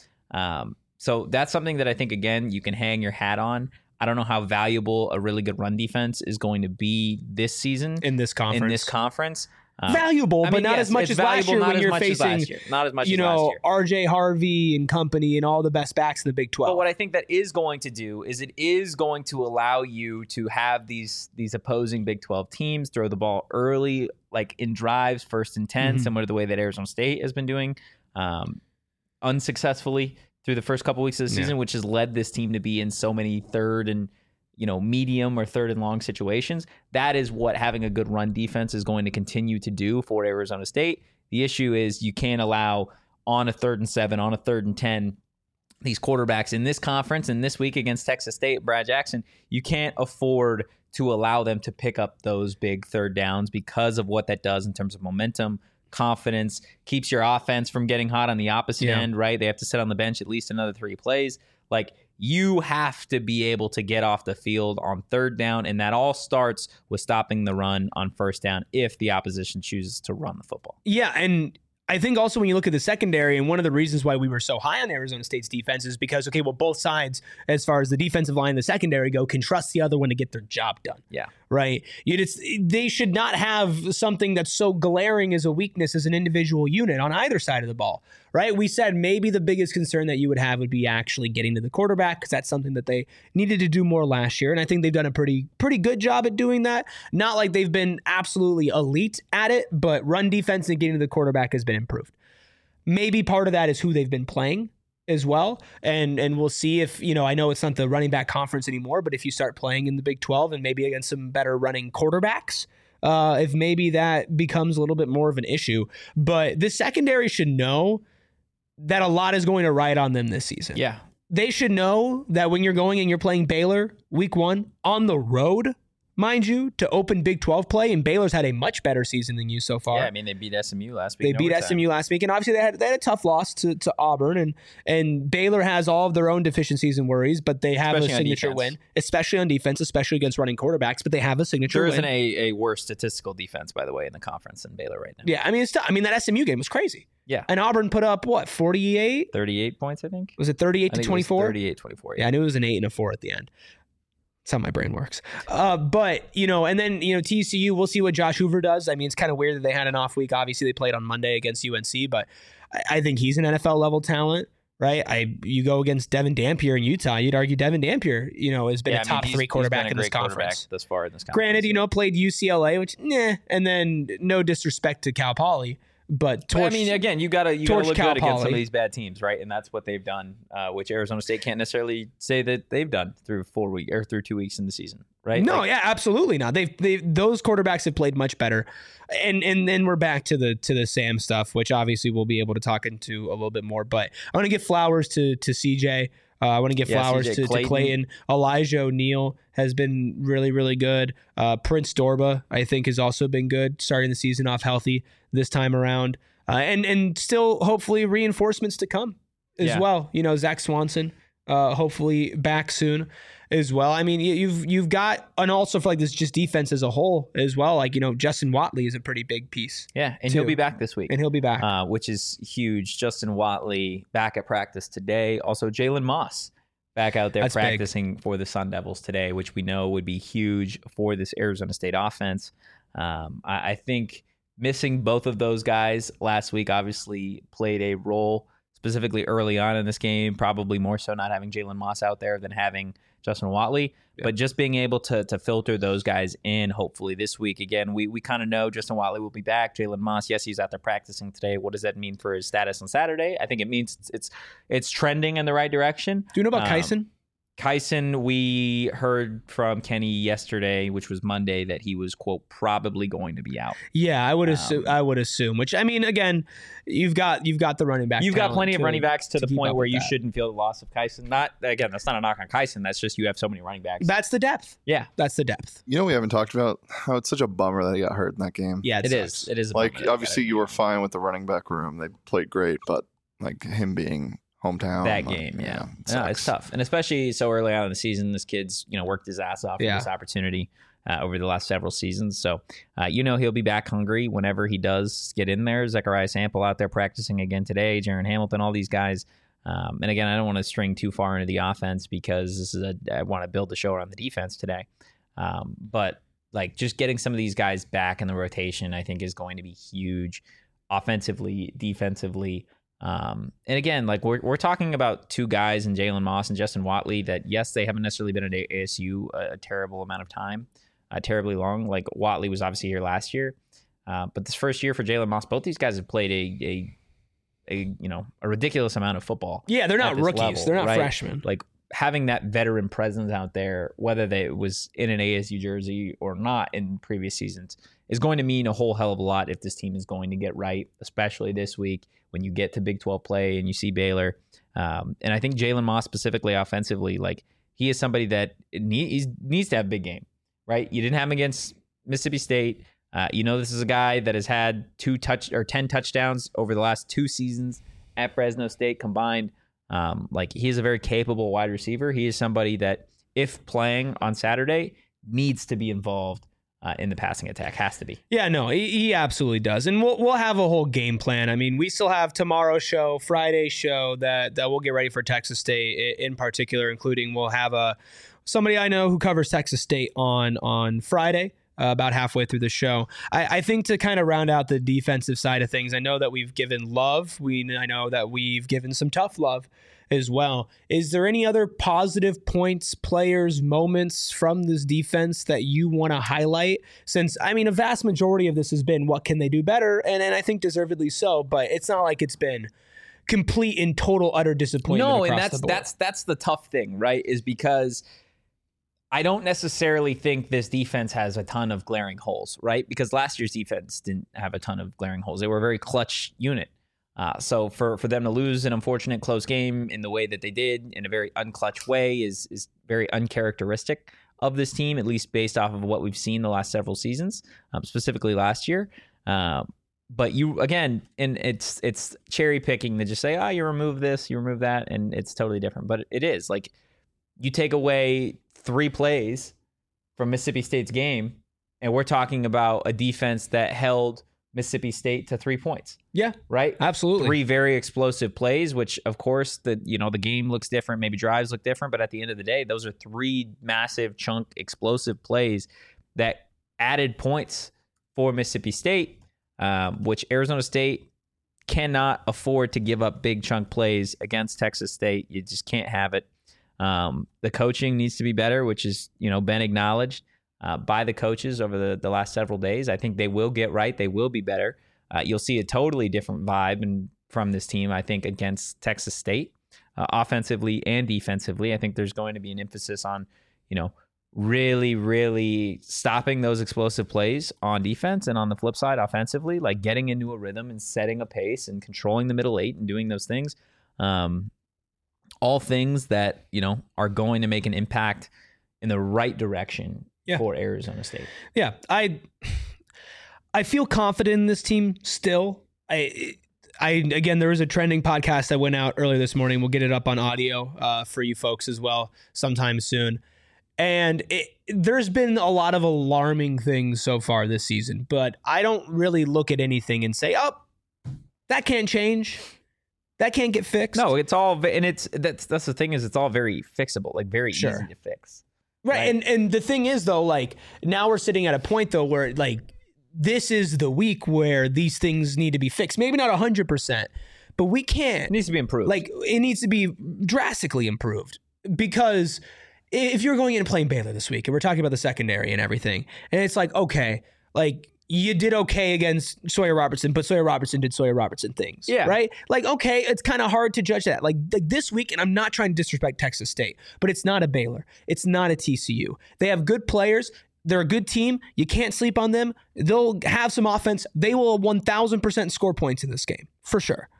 Speaker 2: So that's something that I think, again, you can hang your hat on. I don't know how valuable a really good run defense is going to be this season
Speaker 1: in this conference.
Speaker 2: Valuable,
Speaker 1: but not as much as last year when you're facing,
Speaker 2: not as much as last year.
Speaker 1: RJ Harvey and company and all the best backs in the Big 12.
Speaker 2: But what I think that is going to do is it is going to allow you to have these opposing Big 12 teams throw the ball early, in drives, 1st and 10, similar to the way that Arizona State has been doing unsuccessfully through the first couple weeks of the season, which has led this team to be in so many third and medium or third and long situations. That is what having a good run defense is going to continue to do for Arizona State. The issue is you can't allow on a 3rd and 7, on a 3rd and 10, these quarterbacks in this conference and this week against Texas State, Brad Jackson, you can't afford to allow them to pick up those big 3rd downs because of what that does in terms of momentum, confidence, keeps your offense from getting hot on the opposite end, right? They have to sit on the bench at least another 3 plays. You have to be able to get off the field on 3rd down, and that all starts with stopping the run on 1st down if the opposition chooses to run the football.
Speaker 1: Yeah, and I think also when you look at the secondary, and one of the reasons why we were so high on Arizona State's defense is because, both sides, as far as the defensive line and the secondary go, can trust the other one to get their job done.
Speaker 2: Yeah.
Speaker 1: Right? They should not have something that's so glaring as a weakness as an individual unit on either side of the ball. Right? We said maybe the biggest concern that you would have would be actually getting to the quarterback, because that's something that they needed to do more last year. And I think they've done a pretty good job at doing that. Not like they've been absolutely elite at it, but run defense and getting to the quarterback has been improved. Maybe part of that is who they've been playing as well. And we'll see if, I know it's not the running back conference anymore, but if you start playing in the Big 12 and maybe against some better running quarterbacks, if maybe that becomes a little bit more of an issue. But this secondary should know that a lot is going to ride on them this season.
Speaker 2: Yeah.
Speaker 1: They should know that when you're going and you're playing Baylor week 1 on the road, mind you, to open Big 12 play, and Baylor's had a much better season than you so far.
Speaker 2: Yeah, I mean, they beat SMU last week.
Speaker 1: They beat SMU last week, and obviously they had a tough loss to Auburn, and Baylor has all of their own deficiencies and worries, but they have a signature win, especially on defense, especially against running quarterbacks, but they have a signature win.
Speaker 2: There isn't a worse statistical defense, by the way, in the conference than Baylor right now.
Speaker 1: Yeah, I mean, that SMU game was crazy.
Speaker 2: Yeah.
Speaker 1: And Auburn put up, 48?
Speaker 2: 38 points, I think.
Speaker 1: Was it 38 to 24?
Speaker 2: 38-24.
Speaker 1: Yeah, I knew it was an 8 and a 4 at the end. That's how my brain works. But, and then, TCU, we'll see what Josh Hoover does. I mean, it's kind of weird that they had an off week. Obviously, they played on Monday against UNC, but I think he's an NFL level talent, right? You go against Devin Dampier in Utah, you'd argue Devin Dampier, has been a top 3 quarterback in this conference.
Speaker 2: Thus far in this conference.
Speaker 1: Granted, played UCLA, which, and then no disrespect to Cal Poly. But
Speaker 2: again, you gotta look good
Speaker 1: Cal
Speaker 2: against
Speaker 1: Poly.
Speaker 2: some of these bad teams, right? And that's what they've done, which Arizona State can't necessarily say that they've done through 2 weeks in the season, right?
Speaker 1: No, absolutely not. Those quarterbacks have played much better, and then we're back to the Sam stuff, which obviously we'll be able to talk into a little bit more. But I want to give flowers to CJ. I want to give flowers to Clayton. Elijah O'Neal has been really, really good. Prince Dorba, I think, has also been good, starting the season off healthy this time around. And still, hopefully, reinforcements to come as well. Zach Swanson, hopefully back soon as well. I mean, you've got, and also for this just defense as a whole as well. Justin Watley is a pretty big piece.
Speaker 2: Yeah, and
Speaker 1: too.
Speaker 2: He'll be back this week.
Speaker 1: And he'll be back.
Speaker 2: Which is huge. Justin Watley back at practice today. Also, Jalen Moss back out there practicing for the Sun Devils today, which we know would be huge for this Arizona State offense. I think missing both of those guys last week obviously played a role, specifically early on in this game, probably more so not having Jalen Moss out there than having Justin Watley. Yeah. But just being able to filter those guys in, hopefully this week. Again, we kind of know Justin Watley will be back. Jalen Moss, yes, he's out there practicing today. What does that mean for his status on Saturday? I think it means it's trending in the right direction.
Speaker 1: Do you know about Kyson?
Speaker 2: Kyson, we heard from Kenny yesterday, which was Monday, that he was, quote, probably going to be out.
Speaker 1: Yeah, I would assume. Which, I mean, again, you've got the running back.
Speaker 2: You've got plenty of running backs to the point where you shouldn't feel the loss of Kyson. That's not a knock on Kyson. That's just you have so many running backs.
Speaker 1: That's the depth.
Speaker 2: Yeah,
Speaker 1: that's the depth.
Speaker 3: We haven't talked about how it's such a bummer that he got hurt in that game.
Speaker 1: Yeah,
Speaker 2: it is. It is.
Speaker 3: Obviously, you were fine with the running back room; they played great, but him being hometown.
Speaker 2: That game, it's tough. And especially so early on in the season, this kid's, worked his ass off for this opportunity over the last several seasons. So, he'll be back hungry whenever he does get in there. Zechariah Sample out there practicing again today, Jaron Hamilton, all these guys. And again, I don't want to string too far into the offense because I want to build the show around the defense today. But just getting some of these guys back in the rotation, I think is going to be huge offensively, defensively. And again, we're talking about two guys in Jalen Moss and Justin Watley that, yes, they haven't necessarily been at ASU a terrible amount of time, terribly long. Watley was obviously here last year, but this first year for Jalen Moss, both these guys have played a ridiculous amount of football.
Speaker 1: Yeah, they're not rookies. Level, they're not freshmen.
Speaker 2: Having that veteran presence out there, whether they was in an ASU jersey or not in previous seasons, is going to mean a whole hell of a lot if this team is going to get right, especially this week when you get to Big 12 play and you see Baylor. And I think Jalen Moss specifically offensively, he is somebody that needs to have a big game, right? You didn't have him against Mississippi State. This is a guy that has had 10 touchdowns over the last 2 seasons at Fresno State combined. He is a very capable wide receiver. He is somebody that, if playing on Saturday, needs to be involved in the passing attack. Has to be.
Speaker 1: Yeah, no, he absolutely does. And we'll have a whole game plan. I mean, we still have tomorrow's show, Friday's show that we'll get ready for Texas State in particular, including we'll have somebody I know who covers Texas State on Friday. About halfway through the show. I think to kind of round out the defensive side of things, I know that we've given love. I know that we've given some tough love as well. Is there any other positive points, players, moments from this defense that you want to highlight? Since, a vast majority of this has been what can they do better? And I think deservedly so, but it's not like it's been complete and total utter disappointment.
Speaker 2: No, and that's the tough thing, right? Is because I don't necessarily think this defense has a ton of glaring holes, right? Because last year's defense didn't have a ton of glaring holes. They were a very clutch unit. So for them to lose an unfortunate close game in the way that they did, in a very unclutch way, is very uncharacteristic of this team, at least based off of what we've seen the last several seasons, specifically last year. But you, again, and it's cherry picking to just say, oh, you remove this, you remove that, and it's totally different. But it is like you take away 3 plays from Mississippi State's game, and we're talking about a defense that held Mississippi State to 3 points.
Speaker 1: Yeah.
Speaker 2: Right?
Speaker 1: Absolutely.
Speaker 2: 3 very explosive plays, which of course the game looks different, maybe drives look different, but at the end of the day, those are 3 massive chunk explosive plays that added points for Mississippi State, which Arizona State cannot afford to give up big chunk plays against Texas State. You just can't have it. The coaching needs to be better, which is, been acknowledged by the coaches over the last several days. I think they will get right. They will be better. You'll see a totally different vibe from this team, I think, against Texas State, offensively and defensively. I think there's going to be an emphasis on, really, really stopping those explosive plays on defense, and on the flip side, offensively, like getting into a rhythm and setting a pace and controlling the middle 8 and doing those things. All things that, are going to make an impact in the right direction for Arizona State.
Speaker 1: Yeah. I feel confident in this team still. Again, there was a trending podcast that went out earlier this morning. We'll get it up on audio for you folks as well sometime soon. And there's been a lot of alarming things so far this season, but I don't really look at anything and say, oh, that can't change. That can't get fixed.
Speaker 2: No, it's all, and that's the thing is it's all very fixable, like very easy to fix.
Speaker 1: Right. And the thing is though, like now we're sitting at a point though where like this is the week where these things need to be fixed. Maybe not 100%, but we can't.
Speaker 2: It needs to be improved.
Speaker 1: Like it needs to be drastically improved, because if you're going in and playing Baylor this week and we're talking about the secondary and everything, and it's like, okay, like you did okay against Sawyer Robertson, but Sawyer Robertson did Sawyer Robertson things. Yeah. Right? Like, okay, it's kind of hard to judge that. Like this week, and I'm not trying to disrespect Texas State, but it's not a Baylor. It's not a TCU. They have good players. They're a good team. You can't sleep on them. They'll have some offense. They will 1,000% score points in this game, for sure.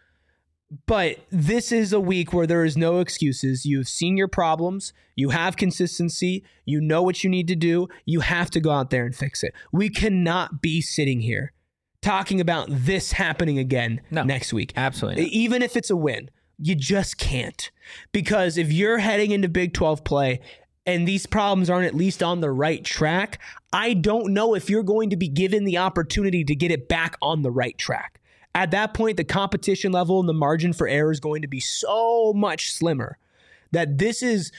Speaker 1: But this is a week where there is no excuses. You've seen your problems. You have consistency. You know what you need to do. You have to go out there and fix it. We cannot be sitting here talking about this happening again next week.
Speaker 2: Absolutely not.
Speaker 1: Even if it's a win, you just can't. Because if you're heading into Big 12 play and these problems aren't at least on the right track, I don't know if you're going to be given the opportunity to get it back on the right track. At that point, the competition level and the margin for error is going to be so much slimmer that this is,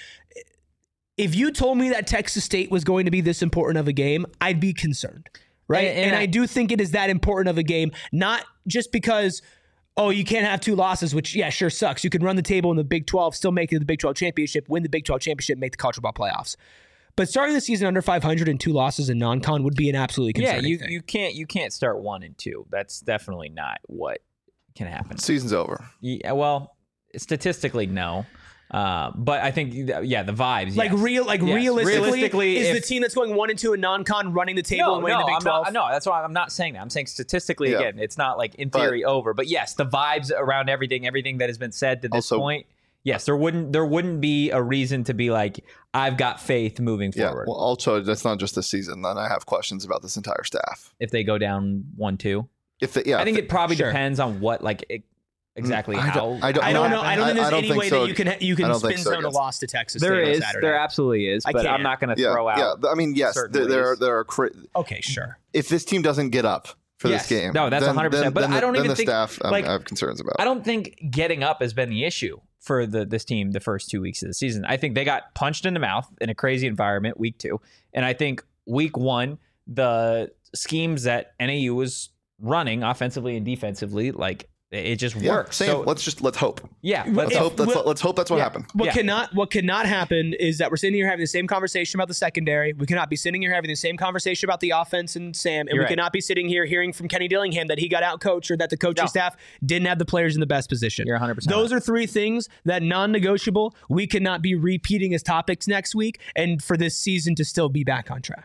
Speaker 1: if you told me that Texas State was going to be this important of a game, I'd be concerned, right? And I do think it is that important of a game, not just because, oh, you can't have 2 losses, which, yeah, sure sucks. You can run the table in the Big 12, still make it to the Big 12 championship, win the Big 12 championship, make the college football playoffs. But starting the season under 500 and 2 losses in non-con would be an absolutely concerning thing.
Speaker 2: You can't start 1 and 2. That's definitely not what can happen.
Speaker 3: Season's over.
Speaker 2: Yeah, well, statistically, no. But I think, the vibes.
Speaker 1: Like realistically, is the team that's going 1 and 2 in non-con running the table and winning the Big 12?
Speaker 2: No, that's why I'm not saying that. I'm saying statistically, again, it's not like in theory over. But yes, the vibes around everything that has been said to this point. Yes, there wouldn't be a reason to be like, I've got faith moving forward.
Speaker 3: Well, also, that's not just this season. Then I have questions about this entire staff.
Speaker 2: If they go down 1-2, I think it probably depends on what exactly how.
Speaker 1: I don't know. I don't think there's any way that you can spin zone a loss to Texas State on Saturday.
Speaker 2: There absolutely is, but I'm not going to throw out.
Speaker 3: Yeah, I mean, yes, there are.
Speaker 1: Okay, sure.
Speaker 3: If this team doesn't get up for this game,
Speaker 2: no, that's 100%. But I don't even think
Speaker 3: the staff I have concerns about.
Speaker 2: I don't think getting up has been the issue for this team the first 2 weeks of the season. I think they got punched in the mouth in a crazy environment week 2. And I think week 1, the schemes that NAU was running offensively and defensively, like it just worked.
Speaker 3: So let's hope.
Speaker 2: Yeah.
Speaker 3: Let's hope that's what happened.
Speaker 1: What cannot happen is that we're sitting here having the same conversation about the secondary. We cannot be sitting here having the same conversation about the offense and Sam. And we cannot be sitting here hearing from Kenny Dillingham that he got out coached or that the coaching staff didn't have the players in the best position.
Speaker 2: You're 100%.
Speaker 1: Those are 3 things that non-negotiable we cannot be repeating as topics next week and for this season to still be back on track.
Speaker 2: Yeah.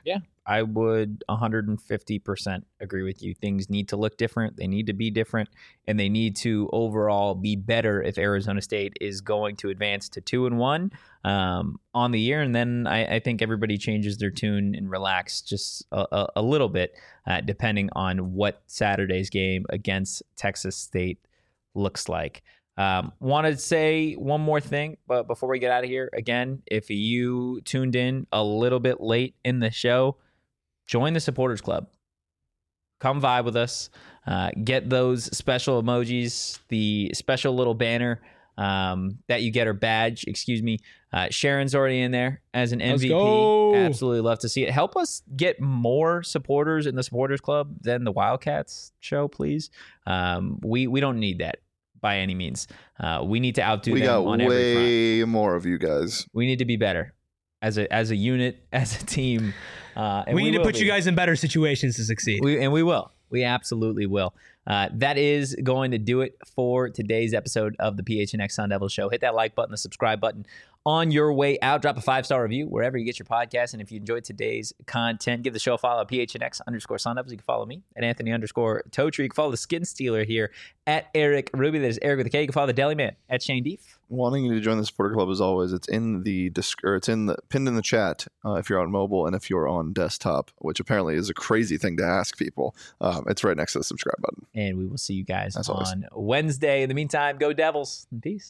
Speaker 2: I would 150% agree with you. Things need to look different. They need to be different, and they need to overall be better if Arizona State is going to advance to 2-1 on the year. And then I think everybody changes their tune and relax just a little bit, depending on what Saturday's game against Texas State looks like. Want to say one more thing, but before we get out of here, again, if you tuned in a little bit late in the show, join the Supporters Club. Come vibe with us. Get those special emojis, the special little banner that you get, or badge, excuse me. Sharon's already in there as an MVP. Absolutely love to see it. Help us get more supporters in the Supporters Club than the Wildcats show, please. We don't need that by any means. We need to outdo them on every front.
Speaker 3: We got way more of you guys.
Speaker 2: We need to be better as a unit, as a team.
Speaker 1: And we need to put you guys in better situations to succeed.
Speaker 2: We will. We absolutely will. That is going to do it for today's episode of the PHNX Sun Devils Show. Hit that like button, the subscribe button on your way out. Drop a 5-star review wherever you get your podcast. And if you enjoyed today's content, give the show a follow at PHNX_Sun Devils. You can follow me at Anthony_Totri. You can follow the Skin Stealer here at Eric Ruby. That is Eric with a K. You can follow the Deli Man at Shane Deef.
Speaker 3: Wanting you to join the Supporter Club as always, it's in the pinned in the chat if you're on mobile and if you're on desktop, which apparently is a crazy thing to ask people. It's right next to the subscribe button.
Speaker 2: And we will see you guys on Wednesday. In the meantime, go Devils and peace.